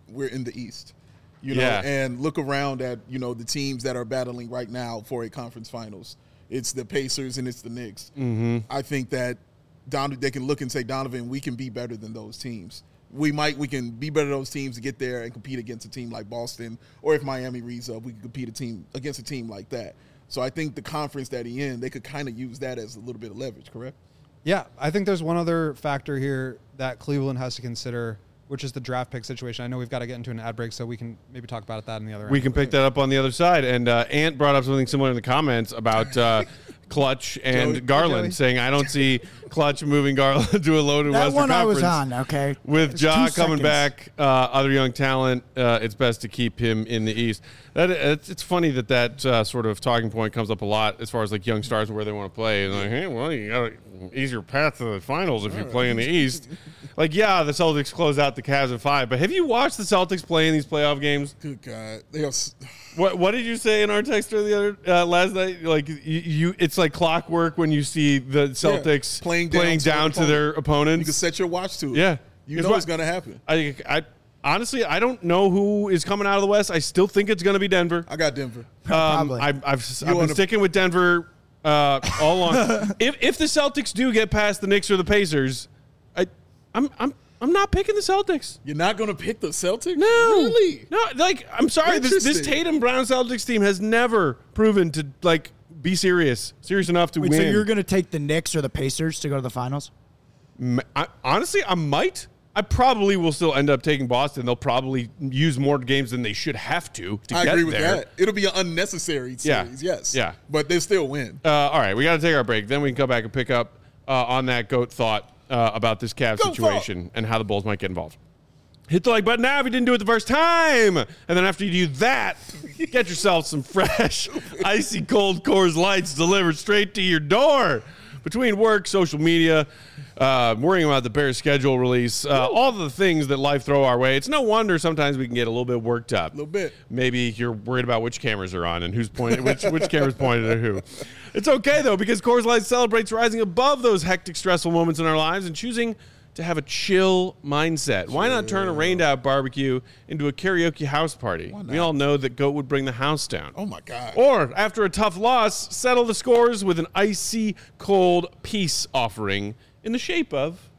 we're in the East. You know, Yeah. and look around at, you know, the teams that are battling right now for a conference finals. It's the Pacers and it's the Knicks. Mm-hmm. I think that Don, they can look and say, Donovan, we can be better than those teams. We might, we can be better than those teams to get there and compete against a team like Boston, or if Miami reads up, we can compete a team against a team like that. So I think the conference that he in, they could kind of use that as a little bit of leverage, correct? Yeah, I think there's one other factor here that Cleveland has to consider, which is the draft pick situation. I know we've got to get into an ad break, so we can maybe talk about that in the other We end. can pick that up on the other side. And uh, Ant brought up something similar in the comments about uh, Clutch and Joey. Garland, Joey. saying, I don't see Clutch moving Garland to a loaded That Western one I was Conference. on, okay? With It was Ja two coming seconds. back, uh, other young talent, uh, it's best to keep him in the East. That it's, it's funny that that uh, sort of talking point comes up a lot as far as like young stars and where they want to play. And like, hey, well, you got an easier path to the finals if you play in the East. Like, yeah, the Celtics close out the Cavs at five, but have you watched the Celtics play in these playoff games? Good God. They are, s- What What did you say in our text the other uh, last night? Like you, you, it's like clockwork when you see the Celtics playing down playing to their down to their opponents. you can set your watch to it. Yeah. You It's know what- it's going to happen. I, I honestly, I don't know who is coming out of the West. I still think it's going to be Denver. I got Denver. Um, Probably. I, I've I've You been wanna- sticking with Denver uh, all along. if if the Celtics do get past the Knicks or the Pacers, I I'm I'm I'm not picking the Celtics. You're not going to pick the Celtics? No, Really? No, like I'm sorry, this this Interesting. Tatum Brown Celtics team has never proven to like be serious, serious enough to Wait, win. so you're going to take the Knicks or the Pacers to go to the finals? M- I, honestly, I might. I probably will still end up taking Boston. They'll probably use more games than they should have to to I get agree with there. that. It'll be an unnecessary Yeah. series, yes. Yeah. But they still win. Uh, all right, we got to take our break. Then we can come back and pick up uh, on that GOAT thought uh, about this Cavs Goat situation and how the Bulls might get involved. Hit the like button now if you didn't do it the first time. And then after you do that, get yourself some fresh, icy cold Coors Lights delivered straight to your door. Between work, social media, uh, worrying about the Bears schedule release, uh, all the things that life throw our way, it's no wonder sometimes we can get a little bit worked up. A little bit. Maybe you're worried about which cameras are on and who's pointing, which which camera's pointed at who. It's okay though, because Coors Light celebrates rising above those hectic, stressful moments in our lives and choosing to have a chill mindset. Why not turn a rained out barbecue into a karaoke house party? We all know that GOAT would bring the house down. Oh, my God. Or, after a tough loss, settle the scores with an icy cold peace offering in the shape of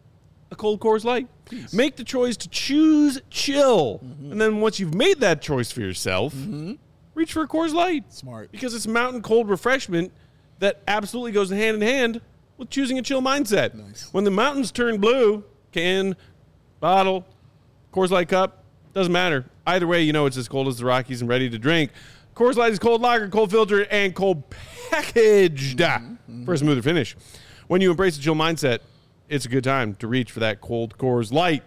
a cold Coors Light. Make the choice to choose chill. Mm-hmm. And then once you've made that choice for yourself, reach for a Coors Light. Smart. Because it's mountain cold refreshment that absolutely goes hand in hand with choosing a chill mindset. Nice. When the mountains turn blue, can, bottle, Coors Light cup, doesn't matter. Either way, you know it's as cold as the Rockies and ready to drink. Coors Light is cold lager, cold filtered, and cold packaged Mm-hmm. for a smoother finish. When you embrace a chill mindset, it's a good time to reach for that cold Coors Light.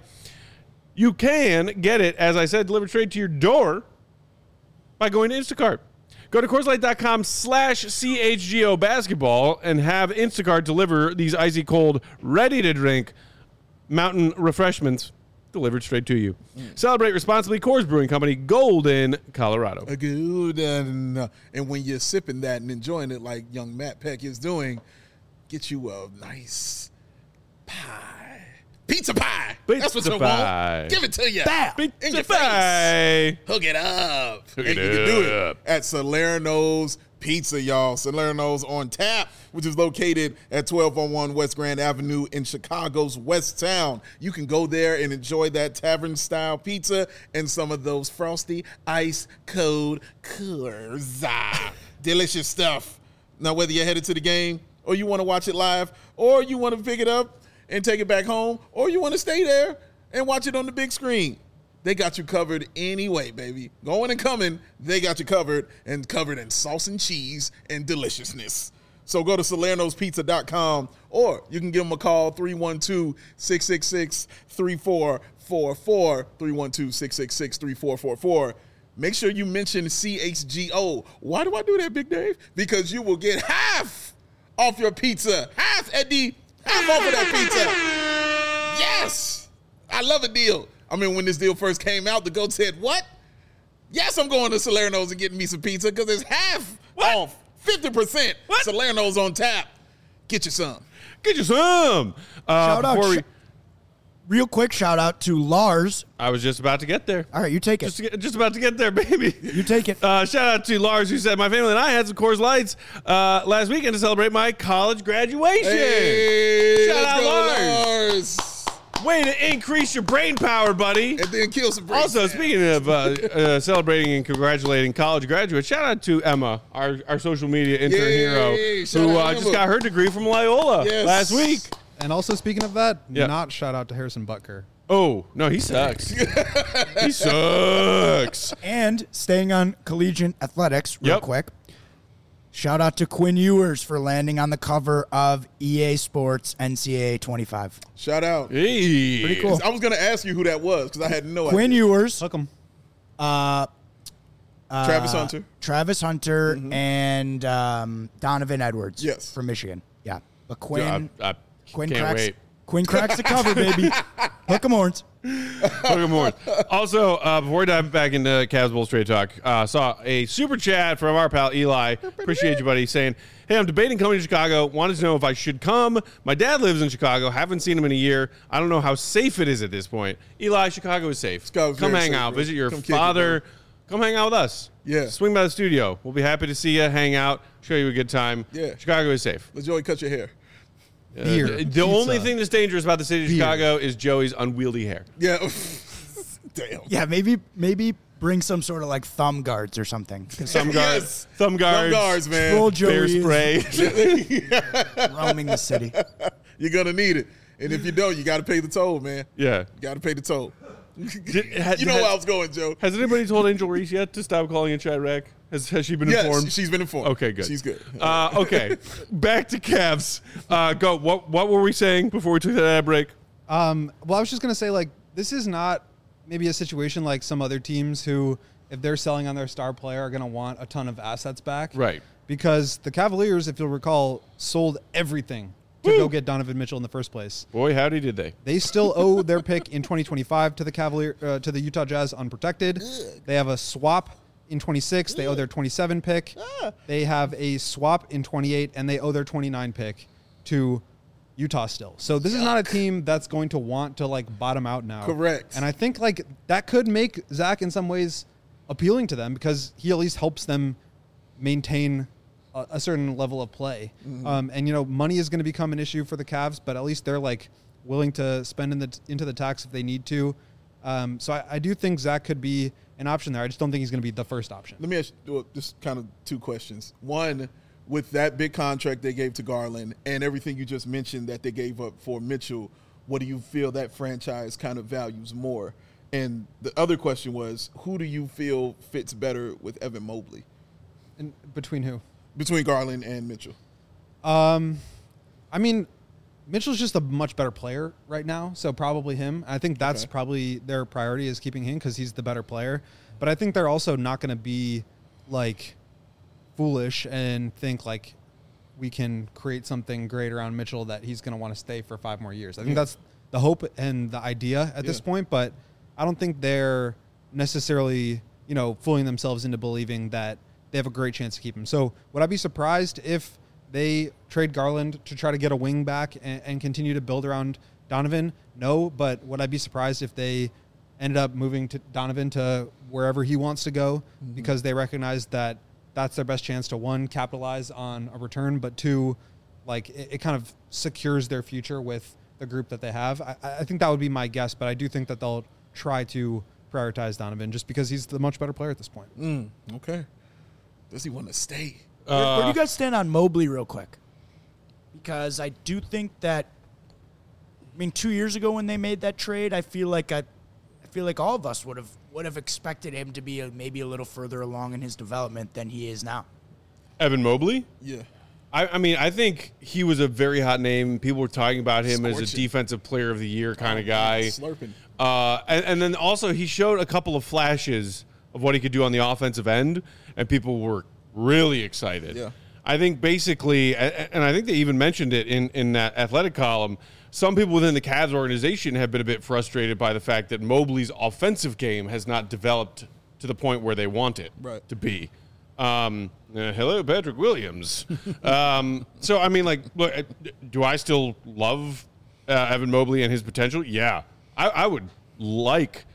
You can get it, as I said, delivered straight to your door by going to Instacart. Go to CoorsLight.com slash CHGO basketball and have Instacart deliver these icy cold, ready-to-drink mountain refreshments delivered straight to you. Mm. Celebrate responsibly. Coors Brewing Company, Golden, Colorado. A good, and, uh, and when you're sipping that and enjoying it like young Matt Peck is doing, get you a nice pie. Pizza pie. That's what Pizza you pie. want. Give it to you. Bam. In Pizza your face. pie. Hook it up. Hook and it you can do up. it at Salerno's Pizza, y'all. Salerno's on tap, which is located at twelve oh one West Grand Avenue in Chicago's West Town. You can go there and enjoy that tavern-style pizza and some of those frosty, ice cold Coors. Ah, delicious stuff. Now, whether you're headed to the game or you want to watch it live or you want to pick it up and take it back home, or you want to stay there and watch it on the big screen, they got you covered anyway, baby. Going and coming, they got you covered, and covered in sauce and cheese and deliciousness. So go to Salernos Pizza dot com, or you can give them a call, three one two, six six six, three four four four, three one two, six six six, three four four four. Make sure you mention C H G O. Why do I do that, Big Dave? Because you will get half off your pizza. Half, Eddie. Half off of that pizza. Yes. I love a deal. I mean, when this deal first came out, the GOAT said, what? Yes, I'm going to Salerno's and getting me some pizza because it's half What? off. fifty percent. What? Salerno's on tap. Get you some. Get you some. Uh, Shout out, before we, sh- real quick shout out to Lars. I was just about to get there. All right, you take it. Just, to get, just about to get there, baby. You take it. Uh, shout out to Lars, who said, my family and I had some Coors Lights uh, last weekend to celebrate my college graduation. Hey, Shout let's out go, Lars. Lars. Way to increase your brain power, buddy. And then kill some brain Also, cells. speaking of uh, uh, celebrating and congratulating college graduates, shout out to Emma, our, our social media intern Yay, hero, shout who out uh, Emma. just got her degree from Loyola Yes. last week. And also, speaking of that, Yeah. not shout out to Harrison Butker. Oh, no, he sucks. He sucks. And staying on collegiate athletics real Yep. quick. Shout out to Quinn Ewers for landing on the cover of E A Sports N C A A twenty-five. Shout out. Hey. Pretty cool. I was going to ask you who that was because I had no Quinn idea. Ewers, Hook 'em. uh, uh, Travis Hunter. Travis Hunter, and um, Donovan Edwards. Yes. from Michigan. Yeah, but Quinn, I, I Quinn can't cracks, wait. Quinn cracks the cover, baby. Hook 'em horns. Welcome more. Also, uh, before we dive back into Cavs Bulls Trade Talk, uh, saw a super chat from our pal Eli. Appreciate you, buddy, saying, hey, I'm debating coming to Chicago. Wanted to know if I should come. My dad lives in Chicago. Haven't seen him in a year. I don't know how safe it is at this point. Eli, Chicago is safe. Chicago's come very hang safe, out. bro. Visit your Come kick it, father. bro. Come hang out with us. Yeah. Swing by the studio. We'll be happy to see you, hang out, show you a good time. Yeah. Chicago is safe. Let Joey cut your hair. Uh, Beer, the the pizza. only thing that's dangerous about the city of Beer. Chicago is Joey's unwieldy hair. Yeah. Damn. Yeah, maybe maybe bring some sort of like thumb guards or something. 'Cause Thumb guards. Yes. Thumb guards. Thumb guards, man. Troll Bear Joey spray. is roaming the city. You're going to need it. And if you don't, you got to pay the toll, man. yeah. You got to pay the toll. Did- had- You know had- where I was going, Joe. Has anybody told Angel Reese yet to stop calling it Chirac? Has Has she been Yes, informed? she's been informed. Okay, good. She's good. Uh, okay, back to Cavs. Uh, go. What What were we saying before we took that ad break? Um, well, I was just going to say, like, this is not maybe a situation like some other teams who, if they're selling on their star player, are going to want a ton of assets back. Right. Because the Cavaliers, if you'll recall, sold everything to Woo. go get Donovan Mitchell in the first place. Boy, howdy did they. They still owe their pick in twenty twenty-five to the Cavalier uh, to the Utah Jazz unprotected. They have a swap in twenty-six. They owe their twenty-seven pick. They have a swap in twenty-eight, and they owe their twenty-nine pick to Utah still. So this is not a team that's going to want to like bottom out now. Correct. And I think like that could make Zach in some ways appealing to them because he at least helps them maintain a, a certain level of play. Mm-hmm. Um, and you know, money is going to become an issue for the Cavs, but at least they're like willing to spend in the into the tax if they need to. Um, so I, I do think Zach could be an option there. I just don't think he's going to be the first option. Let me ask you well, just kind of two questions. One, with that big contract they gave to Garland and everything you just mentioned that they gave up for Mitchell, what do you feel that franchise kind of values more? And the other question was, who do you feel fits better with Evan Mobley And between who? between Garland and Mitchell? Um, I mean, Mitchell's just a much better player right now, so probably him. I think that's Okay. probably their priority is keeping him because he's the better player. But I think they're also not going to be like foolish and think like we can create something great around Mitchell that he's going to want to stay for five more years. I think Yeah. that's the hope and the idea at this Yeah. point, but I don't think they're necessarily, you know, fooling themselves into believing that they have a great chance to keep him. So would I be surprised if they trade Garland to try to get a wing back and, and continue to build around Donovan? No, but would I be surprised if they ended up moving to Donovan to wherever he wants to go Mm-hmm. because they recognize that that's their best chance to, one, capitalize on a return, but two, like it, it kind of secures their future with the group that they have. I, I think that would be my guess, but I do think that they'll try to prioritize Donovan just because he's the much better player at this point. Mm, okay. Does he want to stay? Where, where do Uh, you guys stand on Mobley real quick? Because I do think that, I mean, two years ago when they made that trade, I feel like I, I feel like all of us would have would have expected him to be a, maybe a little further along in his development than he is now. Evan Mobley? Yeah. I, I mean, I think he was a very hot name. People were talking about him as a Scorching. defensive player of the year kind Oh, of guy. man, slurping. Uh, and, and then also he showed a couple of flashes of what he could do on the offensive end, and people were really excited. Yeah. I think basically, a- a- and I think they even mentioned it in, in that athletic column, some people within the Cavs organization have been a bit frustrated by the fact that Mobley's offensive game has not developed to the point where they want it Right. to be. Um, uh, hello, Patrick Williams. um, so, I mean, like, look, uh, do I still love uh, Evan Mobley and his potential? Yeah. I, I would like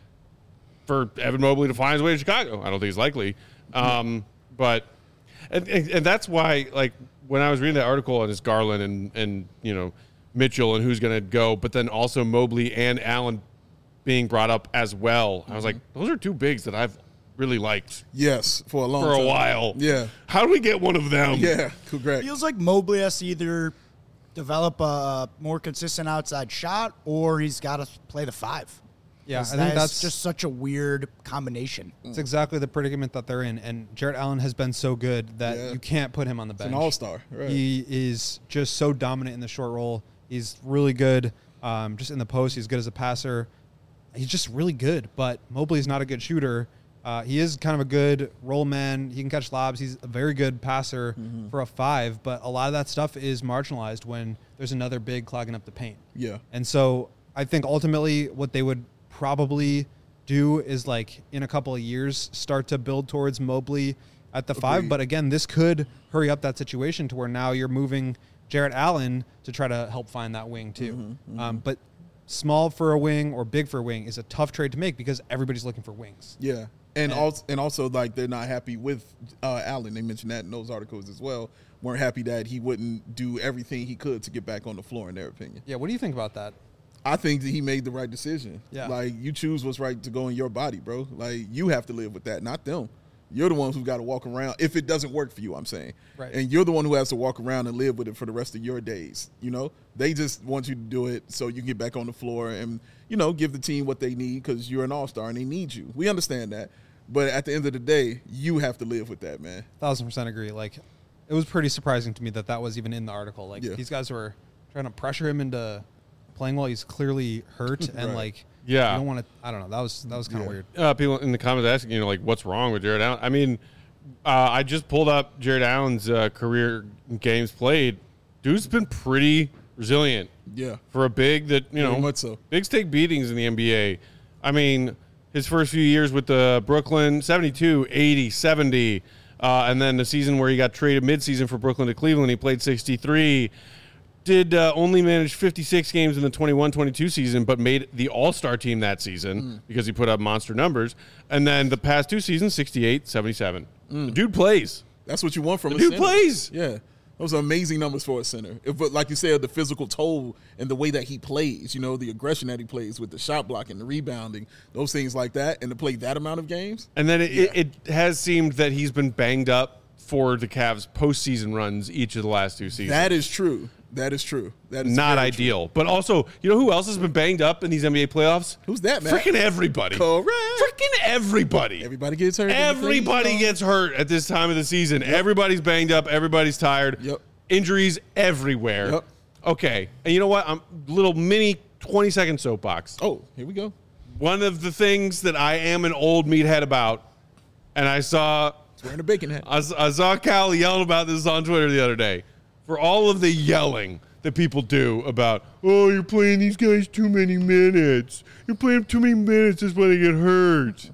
for Evan Mobley to find his way to Chicago. I don't think it's likely. Um, but and, and, and that's why, like, when I was reading that article on this Garland and, and you know, Mitchell and who's going to go, but then also Mobley and Allen being brought up as well, I was like, those are two bigs that I've really liked Yes, for a long for time. a while. Yeah. How do we get one of them? Yeah, correct. Feels like Mobley has to either develop a more consistent outside shot or he's got to play the five. Yeah, I 'Cause think that is that's just such a weird combination. It's exactly the predicament that they're in. And Jarrett Allen has been so good that Yeah. you can't put him on the bench. An all-star. Right. He is just so dominant in the short roll. He's really good um, just in the post. He's good as a passer. He's just really good. But Mobley's not a good shooter. Uh, he is kind of a good roll man. He can catch lobs. He's a very good passer Mm-hmm. for a five. But a lot of that stuff is marginalized when there's another big clogging up the paint. Yeah. And so I think ultimately what they would probably do is, like, in a couple of years start to build towards Mobley at the five. Agreed. But again, this could hurry up that situation to where now you're moving Jarrett Allen to try to help find that wing too. Mm-hmm, Um, but small for a wing or big for a wing is a tough trade to make because everybody's looking for wings. Yeah. And also, and also, like, they're not happy with uh, Allen. They mentioned that in those articles as well. Weren't happy that he wouldn't do everything he could to get back on the floor, in their opinion. Yeah, what do you think about that? I think that he made the right decision. Yeah. Like, you choose what's right to go in your body, bro. Like, you have to live with that, not them. You're the ones who've got to walk around. If it doesn't work for you, I'm saying. Right. And you're the one who has to walk around and live with it for the rest of your days. You know? They just want you to do it so you can get back on the floor and, you know, give the team what they need because you're an all-star and they need you. We understand that. But at the end of the day, you have to live with that, man. Thousand percent agree. Like, it was pretty surprising to me that that was even in the article. Like, Yeah. these guys were trying to pressure him into playing while he's clearly hurt, and Right. like, Yeah. you don't want to. I don't know. That was that was kind of Yeah. weird. Uh, people in the comments asking, you know, like, what's wrong with Jarrett Allen? I mean, uh, I just pulled up Jarrett Allen's uh, career games played. Dude's been pretty resilient Yeah. for a big that, you know, Very much so. bigs take beatings in the N B A. I mean, his first few years with the Brooklyn, seventy-two, eighty, seventy. Uh, and then the season where he got traded midseason for Brooklyn to Cleveland, he played sixty-three. Did uh, only manage fifty-six games in the twenty-one twenty-two season, but made the All-Star team that season Mm. because he put up monster numbers. And then the past two seasons, sixty-eight, seventy-seven. The dude plays. That's what you want from The a dude center. plays. Yeah. Those are amazing numbers for a center. If, but like you said, the physical toll and the way that he plays, you know, the aggression that he plays with the shot blocking, the rebounding, those things like that, and to play that amount of games. And then it, it, it has seemed that he's been banged up for the Cavs postseason runs each of the last two seasons. That is true. That is true. That is Not very ideal. But also, you know who else has been banged up in these N B A playoffs? True. Who's that, man? Freaking everybody. Correct. Freaking everybody. Everybody gets hurt. in the Everybody playoffs. gets hurt at this time of the season. Everybody's banged up. Everybody's tired. Yep. Injuries everywhere. Yep. Okay. And you know what? I'm little mini twenty second soapbox. Oh, here we go. One of the things that I am an old meathead about, and I saw He's wearing a bacon hat. I, s- I saw Cal yelling about this on Twitter the other day. For all of the yelling that people do about, oh, you're playing these guys too many minutes. You're playing too many minutes. That's why they get hurt.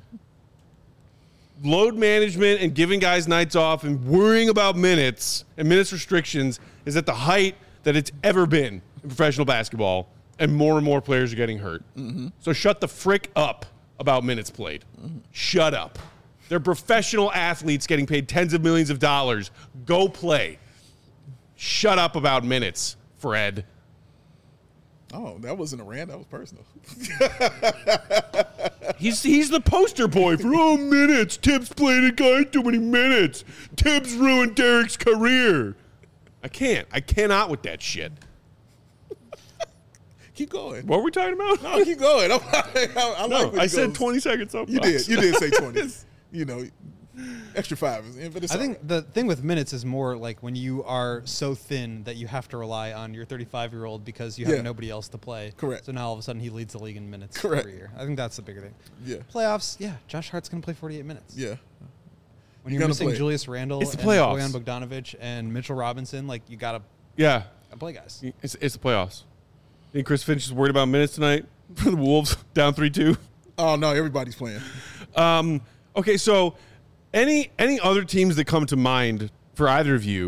Load management and giving guys nights off and worrying about minutes and minutes restrictions is at the height that it's ever been in professional basketball, and more and more players are getting hurt. Mm-hmm. So shut the frick up about minutes played. Mm-hmm. Shut up. They're professional athletes getting paid tens of millions of dollars. Go play. Shut up about minutes, Fred. Oh, that wasn't a rant. That was personal. He's he's the poster boy for, oh, minutes. Tibbs played a guy too many minutes. Tibbs ruined Derek's career. I can't. I cannot with that shit. Keep going. What were we talking about? No, keep going. I, I, I No, like when I he said goes- twenty seconds up. You did. You did say twenty. You know, extra five. But it's I all think right. the thing with minutes is more like when you are so thin that you have to rely on your thirty-five-year-old because you have Yeah. nobody else to play. Correct. So now all of a sudden he leads the league in minutes Correct. every year. I think that's the bigger thing. Yeah. Playoffs, yeah. Josh Hart's going to play forty-eight minutes. Yeah. When You're you're gonna missing play. Julius Randle It's the and playoffs. Bojan Bogdanovic and Mitchell Robinson, like you got to Yeah. play guys. It's, it's the playoffs. Think Chris Finch is worried about minutes tonight for the Wolves down three two? Oh no, everybody's playing. Um, okay, so any any other teams that come to mind for either of you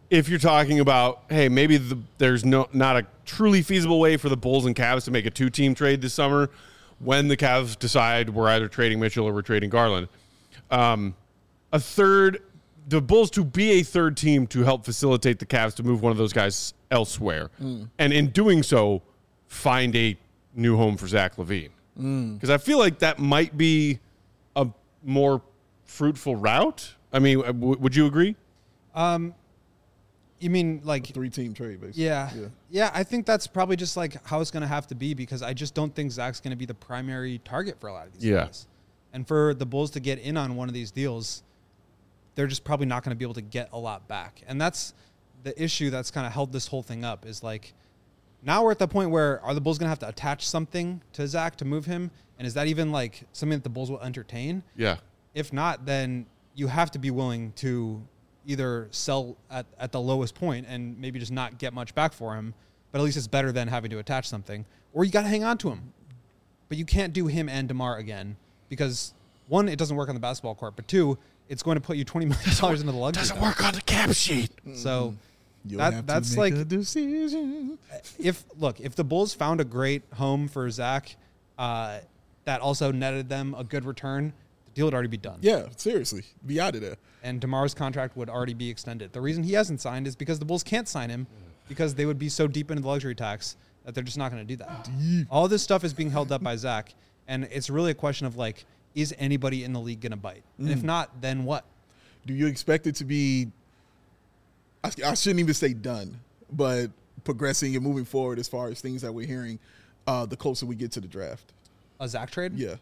if you're talking about, hey, maybe the, there's no not a truly feasible way for the Bulls and Cavs to make a two-team trade this summer when the Cavs decide we're either trading Mitchell or we're trading Garland. Um, a third, the Bulls to be a third team to help facilitate the Cavs to move one of those guys elsewhere. Mm. And in doing so, find a new home for Zach LaVine. Because mm. I feel like that might be a more fruitful route. I mean, w- would you agree? Um, you mean like a three-team trade, basically. Yeah, yeah. Yeah, I think that's probably just like how it's going to have to be because I just don't think Zach's going to be the primary target for a lot of these yeah. guys. And for the Bulls to get in on one of these deals, they're just probably not going to be able to get a lot back. And that's the issue that's kind of held this whole thing up is like now we're at the point where are the Bulls going to have to attach something to Zach to move him? And is that even like something that the Bulls will entertain? Yeah. If not, then you have to be willing to either sell at, at the lowest point and maybe just not get much back for him, but at least it's better than having to attach something. Or you got to hang on to him. But you can't do him and DeMar again because, one, it doesn't work on the basketball court, but two, it's going to put you twenty million dollars into the luxury. Doesn't work on the cap sheet. So You'll that, have that's to make like a decision. If look, if the Bulls found a great home for Zach uh, that also netted them a good return, the deal would already be done. Yeah, seriously. Be out of there. And DeMar's contract would already be extended. The reason he hasn't signed is because the Bulls can't sign him because they would be so deep into the luxury tax that they're just not going to do that. Deep. All this stuff is being held up by Zach, and it's really a question of, like, is anybody in the league going to bite? Mm. And if not, then what? Do you expect it to be I, I shouldn't even say done, but progressing and moving forward as far as things that we're hearing uh, the closer we get to the draft? A Zach trade? Yeah.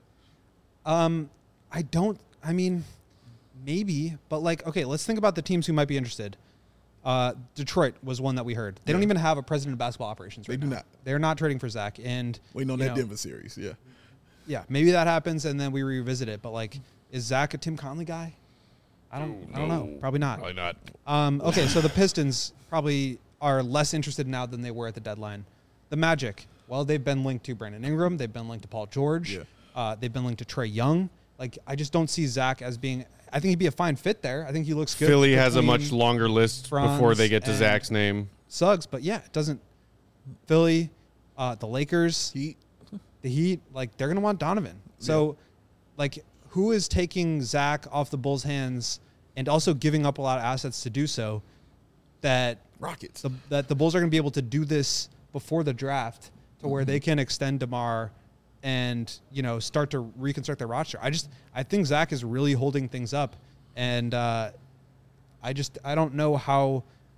Um, I don't – I mean – maybe, but like, okay, let's think about the teams who might be interested. Uh, Detroit was one that we heard. They yeah. don't even have a president of basketball operations right They do now. not. They're not trading for Zach. And waiting on that know, Denver series, yeah. Yeah, maybe that happens and then we revisit it. But like, is Zach a Tim Conley guy? I don't no, I don't know. Probably not. Probably not. Um, okay, so the Pistons probably are less interested now than they were at the deadline. The Magic, well, they've been linked to Brandon Ingram. They've been linked to Paul George. Yeah. Uh, they've been linked to Trae Young. Like, I just don't see Zach as being – I think he'd be a fine fit there. I think he looks good. Philly has a much longer list before they get to Zach's name. Suggs, but yeah, it doesn't – Philly, uh, the Lakers, Heat. the Heat, like, they're going to want Donovan. So, yeah. like, who is taking Zach off the Bulls' hands and also giving up a lot of assets to do so that Rockets. The, that the Bulls are going to be able to do this before the draft to where mm-hmm. they can extend DeMar and, you know, start to reconstruct their roster. I just, I think Zach is really holding things up. And uh, I just, I don't know how,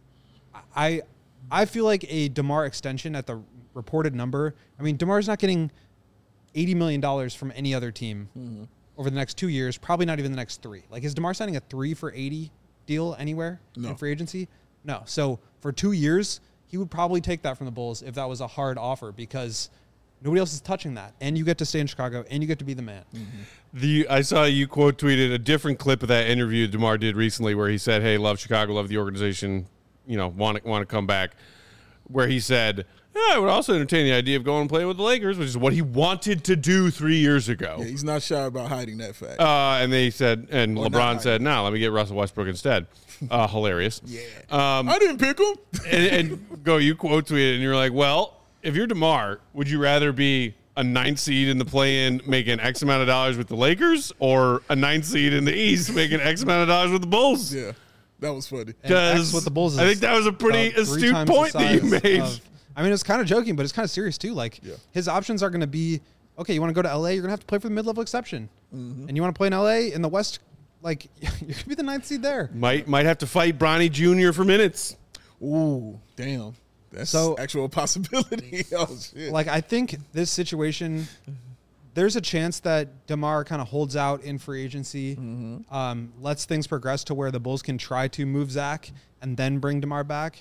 I I feel like a DeMar extension at the reported number, I mean, DeMar's not getting eighty million dollars from any other team mm-hmm. over the next two years, probably not even the next three. Like, is DeMar signing a three for eighty deal anywhere no. in free agency? No. So for two years, he would probably take that from the Bulls if that was a hard offer because nobody else is touching that, and you get to stay in Chicago, and you get to be the man. Mm-hmm. The I saw you quote tweeted a different clip of that interview DeMar did recently, where he said, "Hey, love Chicago, love the organization, you know, want to want to come back." Where he said, yeah, "I would also entertain the idea of going and playing with the Lakers," which is what he wanted to do three years ago. Yeah, he's not shy about hiding that fact. Uh, and they said, and or LeBron said, "No, let me get Russell Westbrook instead." Uh, hilarious. Yeah, um, I didn't pick him. and, and go, you quote tweeted, and you're like, "Well, if you're DeMar, would you rather be a ninth seed in the play-in making X amount of dollars with the Lakers or a ninth seed in the East making X amount of dollars with the Bulls?" Yeah, that was funny. Because with the Bulls, I think that was a pretty astute point that you made. Of, I mean, it's kind of joking, but it's kind of serious too. Like, yeah. his options are going to be, okay, you want to go to L A, you're going to have to play for the mid-level exception. Mm-hmm. And you want to play in L A, in the West, like, you're going to be the ninth seed there. Might might have to fight Bronny Junior for minutes. Ooh, damn. That's so, actual possibility. Oh, shit. Like, I think this situation, there's a chance that DeMar kind of holds out in free agency, mm-hmm. um, lets things progress to where the Bulls can try to move Zach and then bring DeMar back.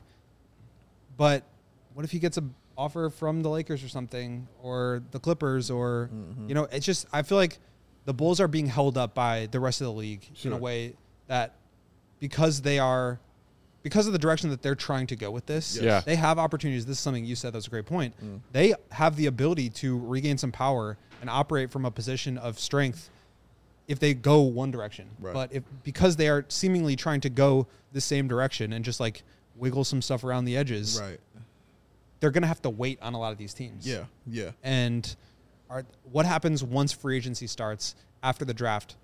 But what if he gets an offer from the Lakers or something, or the Clippers, or, mm-hmm. you know, it's just, I feel like the Bulls are being held up by the rest of the league sure. in a way that because they are, because of the direction that they're trying to go with this, yeah. they have opportunities. This is something you said that was a great point. Mm. They have the ability to regain some power and operate from a position of strength if they go one direction. Right. But if because they are seemingly trying to go the same direction and just like wiggle some stuff around the edges, Right. they're going to have to wait on a lot of these teams. Yeah. Yeah. And are, what happens once free agency starts after the draft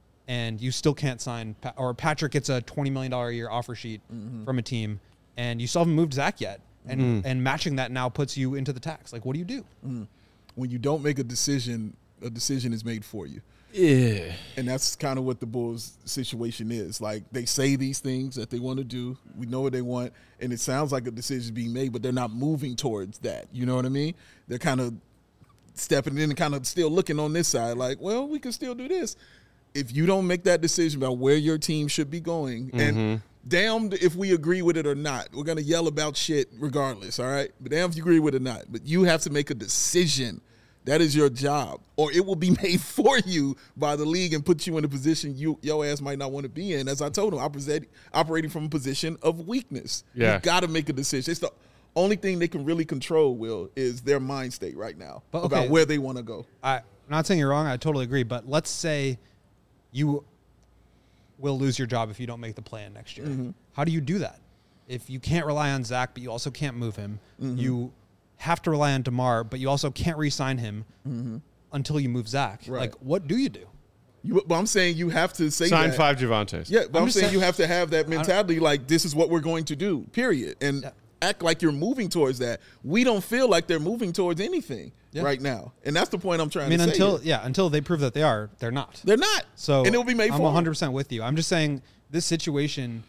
and you still can't sign, or Patrick gets a twenty million dollars a year offer sheet mm-hmm. from a team and you still haven't moved Zach yet. And, mm. and matching that now puts you into the tax. Like, what do you do? Mm. When you don't make a decision, a decision is made for you. Yeah. And that's kind of what the Bulls situation is. Like, they say these things that they want to do. We know what they want. And it sounds like a decision is being made, but they're not moving towards that. You know what I mean? They're kind of stepping in and kind of still looking on this side like, well, we can still do this. If you don't make that decision about where your team should be going, mm-hmm. and damned if we agree with it or not, we're going to yell about shit regardless, all right? But damn if you agree with it or not. But you have to make a decision. That is your job, or it will be made for you by the league and put you in a position you your ass might not want to be in. As I told him, I'm operating from a position of weakness. Yeah. You've got to make a decision. It's the only thing they can really control, Will, is their mind state right now but, okay, about where they want to go. I, I'm not saying you're wrong. I totally agree. But let's say you will lose your job if you don't make the plan next year. Mm-hmm. How do you do that? If you can't rely on Zach, but you also can't move him, mm-hmm. you have to rely on DeMar, but you also can't re-sign him mm-hmm. until you move Zach. Right. Like, what do you do? You, but I'm saying you have to say sign that. five Javontes. Yeah, but I'm, I'm saying, saying you have to have that mentality like this is what we're going to do, period. And yeah. act like you're moving towards that. We don't feel like they're moving towards anything yeah. right now. And that's the point I'm trying I mean, to say. until here. yeah, until they prove that they are, they're not. They're not. So and it will be made I'm for one hundred percent with you. I'm just saying this situation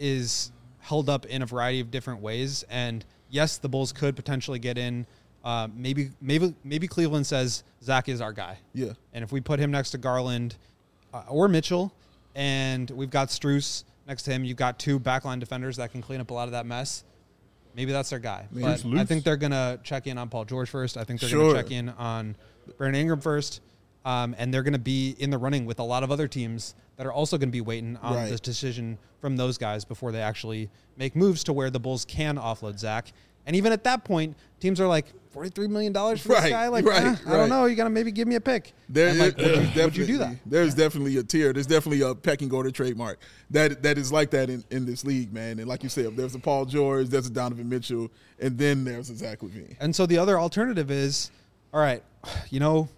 is held up in a variety of different ways. And yes, the Bulls could potentially get in. Uh, maybe, maybe, maybe Cleveland says Zach is our guy. Yeah. And if we put him next to Garland uh, or Mitchell, and we've got Strus next to him, you've got two backline defenders that can clean up a lot of that mess. Maybe that's their guy. Maybe but I think they're gonna check in on Paul George first. I think they're sure. gonna check in on Brandon Ingram first, um, and they're gonna be in the running with a lot of other teams that are also gonna be waiting on right. this decision from those guys before they actually make moves to where the Bulls can offload Zach. And even at that point, teams are like, forty-three million dollars for right, this guy? Like, right, eh, right. I don't know. You got to maybe give me a pick. There, like, would, would, you, you, would you do that? There's yeah. definitely a tier. There's definitely a pecking order trademark that that is like that in, in this league, man. And like you said, there's a Paul George, there's a Donovan Mitchell, and then there's a Zach LaVine. And so the other alternative is, all right, you know,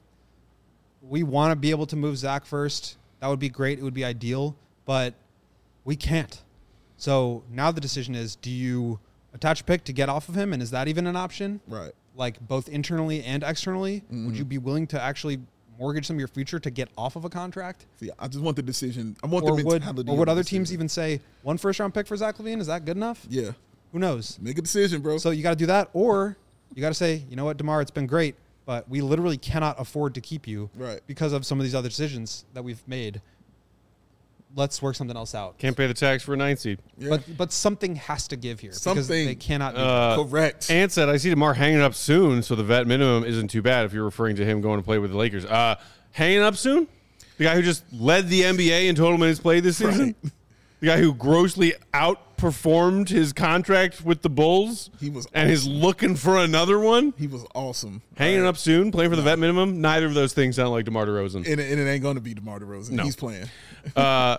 we want to be able to move Zach first. That would be great. It would be ideal, but we can't. So now the decision is, do you attach a pick to get off of him, and is that even an option? Right. Like both internally and externally? Mm-hmm. Would you be willing to actually mortgage some of your future to get off of a contract? See, I just want the decision. I want or the would, mentality. Or would other decision. teams even say, one first-round pick for Zach LaVine, is that good enough? Yeah. Who knows? Make a decision, bro. So you got to do that, or you got to say, you know what, DeMar, it's been great, but we literally cannot afford to keep you right. because of some of these other decisions that we've made. Let's work something else out. Can't pay the tax for a nine seed. Yeah. But but something has to give here. Something. Because they cannot do Uh, that. Correct. Ant said, I see DeMar hanging up soon, so the vet minimum isn't too bad if you're referring to him going to play with the Lakers. Uh, hanging up soon? The guy who just led the N B A in total minutes played this season? Right. The guy who grossly outperformed his contract with the Bulls He was and is looking for another one? He was awesome. Hanging right. up soon, playing for the vet minimum? Neither of those things sound like DeMar DeRozan. And, it- and it ain't going to be DeMar DeRozan. No. He's playing. Uh,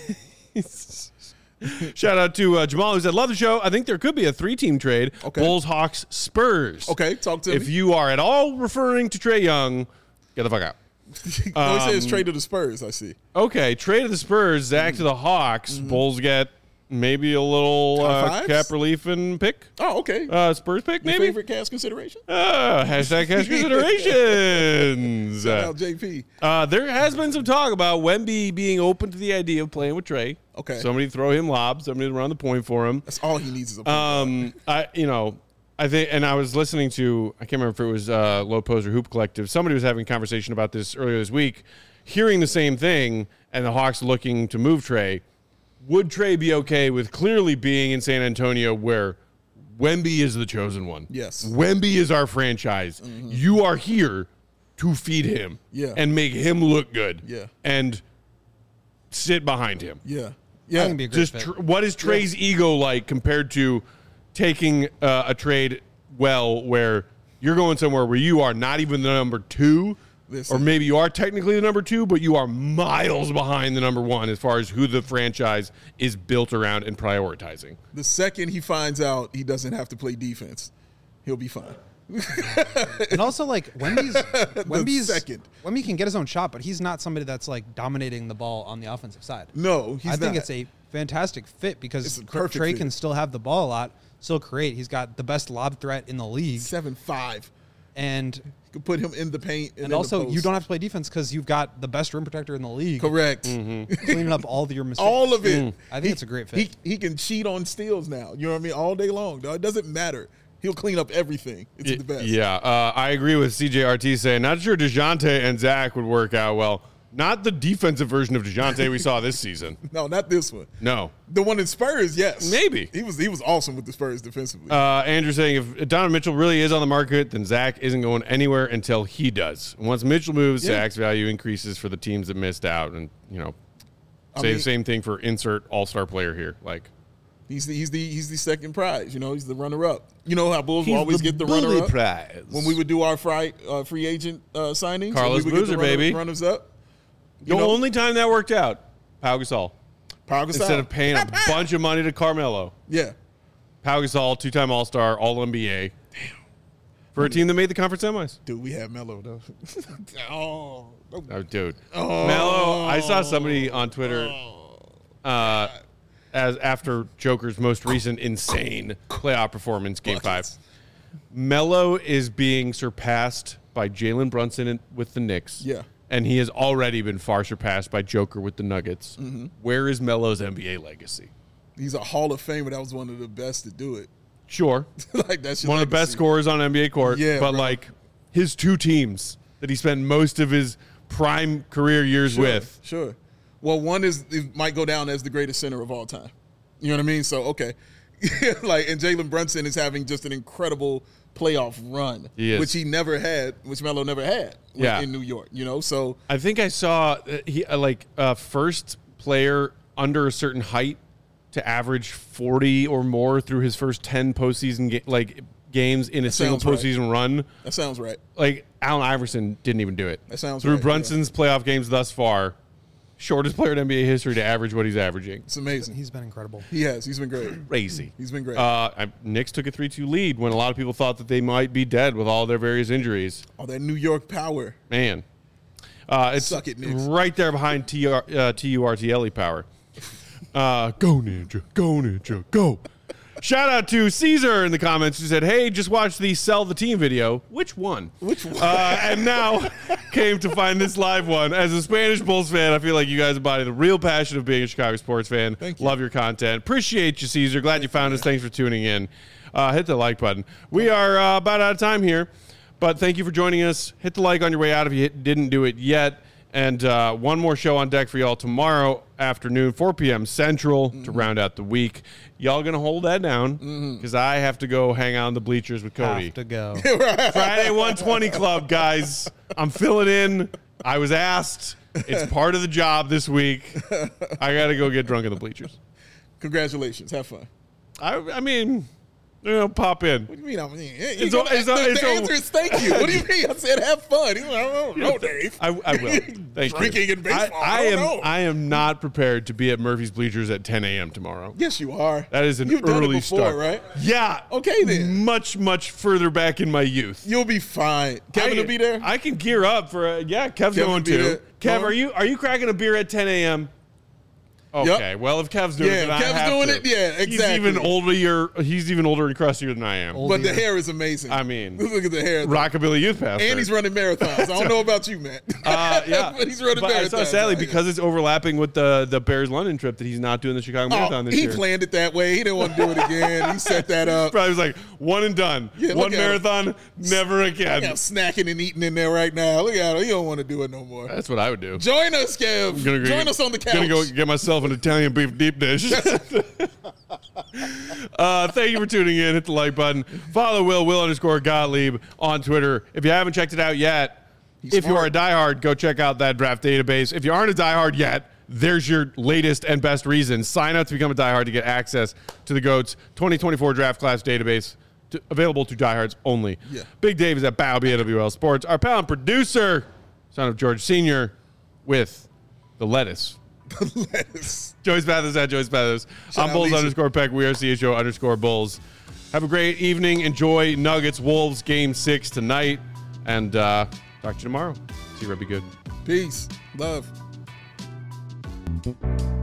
shout out to uh, Jamal who said, love the show. I think there could be a three-team trade. Okay. Bulls, Hawks, Spurs. Okay, talk to If me. you are at all referring to Trae Young, get the fuck out. no, he says um, trade to the Spurs, I see. Okay, trade to the Spurs, Zach to the Hawks. Mm-hmm. Bulls get maybe a little Top uh, fives? cap relief and pick. Oh, okay. Uh, Spurs pick, Your maybe? favorite cast consideration? Uh, hashtag cash considerations. Shout out J P. Uh, there has been some talk about Wemby being open to the idea of playing with Trae. Okay. Somebody throw him lobs. Somebody to run the point for him. That's all he needs is a point Um, I you know, I think, and I was listening to, I can't remember if it was uh, Low Post or Hoop Collective. Somebody was having a conversation about this earlier this week, hearing the same thing, and the Hawks looking to move Trae. Would Trae be okay with clearly being in San Antonio where Wemby is the chosen one? Yes. Wemby is our franchise. Mm-hmm. You are here to feed him Yeah. and make him look good. Yeah. And sit behind him. Yeah. I Yeah. think it'd be a great Just fit. tr- what is Trae's ego like compared to taking uh, a trade well where you're going somewhere where you are not even the number two, This or is- maybe you are technically the number two, but you are miles behind the number one as far as who the franchise is built around and prioritizing. The second he finds out he doesn't have to play defense, he'll be fine. And also, like, Wemby's, Wemby's second. Wemby can get his own shot, but he's not somebody that's, like, dominating the ball on the offensive side. No, he's I think not. it's a fantastic fit because It's a perfect Trey fit. can still have the ball a lot, still create. He's got the best lob threat in the league. seven five. And You can put him in the paint. And, and in also, the post. you don't have to play defense because you've got the best rim protector in the league. Correct. Cleaning up all of your mistakes. All of it. I think He- it's a great fit. He, he can cheat on steals now. You know what I mean? All day long. Dog. It doesn't matter. He'll clean up everything. It's the best. Yeah, uh, I agree with C J R T saying, not sure DeJounte and Zach would work out well. Not the defensive version of DeJounte we saw this season. No, not this one. No. The one in Spurs, yes. Maybe. He was he was awesome with the Spurs defensively. Uh, Andrew saying, if Donovan Mitchell really is on the market, then Zach isn't going anywhere until he does. Once Mitchell moves, Yeah. Zach's value increases for the teams that missed out. And, you know, I say mean- the same thing for insert all-star player here. Like, he's the he's the he's the second prize. You know, he's the runner up. You know how Bulls will always get the runner up prize. when we would do our fri- uh, free agent uh, signings. Carlos we would get the Boozer, runner- baby. runners up. The You know, only time that worked out, Pau Gasol. Pau Gasol. Instead of paying a bunch of money to Carmelo. yeah. Pau Gasol, two-time All-Star, All-N B A. Damn. For a team that made the conference semis. Dude, we had Melo though. oh, no. Oh, dude. Melo, I saw somebody on Twitter uh, as after Joker's most recent insane playoff performance, Game Buckets. five. Melo is being surpassed by Jalen Brunson in- with the Knicks. Yeah. And he has already been far surpassed by Joker with the Nuggets. Mm-hmm. Where is Melo's N B A legacy? He's a Hall of Famer. That was one of the best to do it. Sure. like that's One of the best scorers on N B A court. Yeah, but bro. like his two teams that he spent most of his prime career years Sure, with. Sure. Well, one is it might go down as the greatest center of all time. You know what I mean? So okay, like and Jalen Brunson is having just an incredible playoff run, He is. which he never had, which Melo never had. when- Yeah. in New York. You know, so I think I saw uh, he uh, like uh, first player under a certain height to average forty or more through his first ten postseason ga- like games in a single sounds right. postseason run. that sounds right. Like Allen Iverson didn't even do it. That sounds through right, Brunson's playoff games thus far. Shortest player in N B A history to average what he's averaging. It's amazing. He's been incredible. He has. He's been great. Crazy. He's been great. Uh, I, Knicks took a three two lead when a lot of people thought that they might be dead with all their various injuries. oh, that New York power. Man. Uh, it's Suck it, Knicks. right there behind T R, uh, T U R T L E power. Uh, go Ninja, go Ninja, go. Shout out to Caesar in the comments who said, hey, just watched the Sell the Team video. Which one? Which one? Uh, and now came to find this live one. As a Spanish Bulls fan, I feel like you guys embody the real passion of being a Chicago sports fan. Thank you. Love your content. Appreciate you, Caesar. Glad you found us. Thanks for tuning in. Uh, hit the like button. We are uh, about out of time here, but thank you for joining us. Hit the like on your way out if you hit, didn't do it yet. And uh, one more show on deck for y'all tomorrow afternoon, four p.m. Central, Mm-hmm. to round out the week. Y'all going to hold that down because I have to go hang out on the bleachers with Cody. Have to go. Friday one twenty Club, guys. I'm filling in. I was asked. It's part of the job this week. I got to go get drunk in the bleachers. Congratulations. Have fun. I, I mean, you know, pop in. What do you mean? I mean, It's it's a- it's a- the, it's the a- answer is thank you. What do you mean? I said have fun. He's like, I don't know, Dave. I, I will. Thank Drinking you. and baseball. I, I I don't am. know. I am not prepared to be at Murphy's Bleachers at ten a.m. tomorrow. Yes, you are. That is an You've done early it before, start, right? Yeah. Okay, then. Much, much further back in my youth. You'll be fine. Kevin I, will be there. I can gear up for a, yeah. Kev's Kevin going will be to. there. Kev, Going? are you are you cracking a beer at ten a.m.? Okay, well if Kev's doing Yeah, it, then I Kev's have doing to. it, yeah, He's exactly. even older. He's even older and crustier than I am. Old but the beer. hair is amazing. I mean, look at the hair. though. Rockabilly Youth Pastor. And he's running marathons. I don't know about you, man. Uh, yeah, but he's running but I marathons. saw, sadly, Yeah. because it's overlapping with the the Bears London trip that he's not doing the Chicago Oh, Marathon this he year. planned it that way. He didn't want to do it again. He set that up. Probably was like one and done. Yeah, one look at him. marathon, never again. Yeah, snacking and eating in there right now. Look at him. He don't want to do it no more. That's what I would do. Join us, Kev. I'm gonna go Join get- us on the couch. Gonna go get myself an Italian beef deep dish. uh, thank you for tuning in. Hit the like button. Follow Will, Will underscore Gottlieb on Twitter. If you haven't checked it out yet, He's if you are a smart. diehard, go check out that draft database. If you aren't a diehard yet, there's your latest and best reason. Sign up to become a diehard to get access to the GOATS twenty twenty-four draft class database. To, available to diehards only. Yeah. Big Dave is at Bow B A W L Sports. Our pal and producer, son of George Senior, with the lettuce. Lettuce. Joyce Mathis at Joyce Mathis. Shout I'm out Bulls Lisa. underscore Peck. We are C H O underscore Bulls. Have a great evening. Enjoy Nuggets Wolves game six tonight. And uh, talk to you tomorrow. See you, Red. Be good. Peace. Love.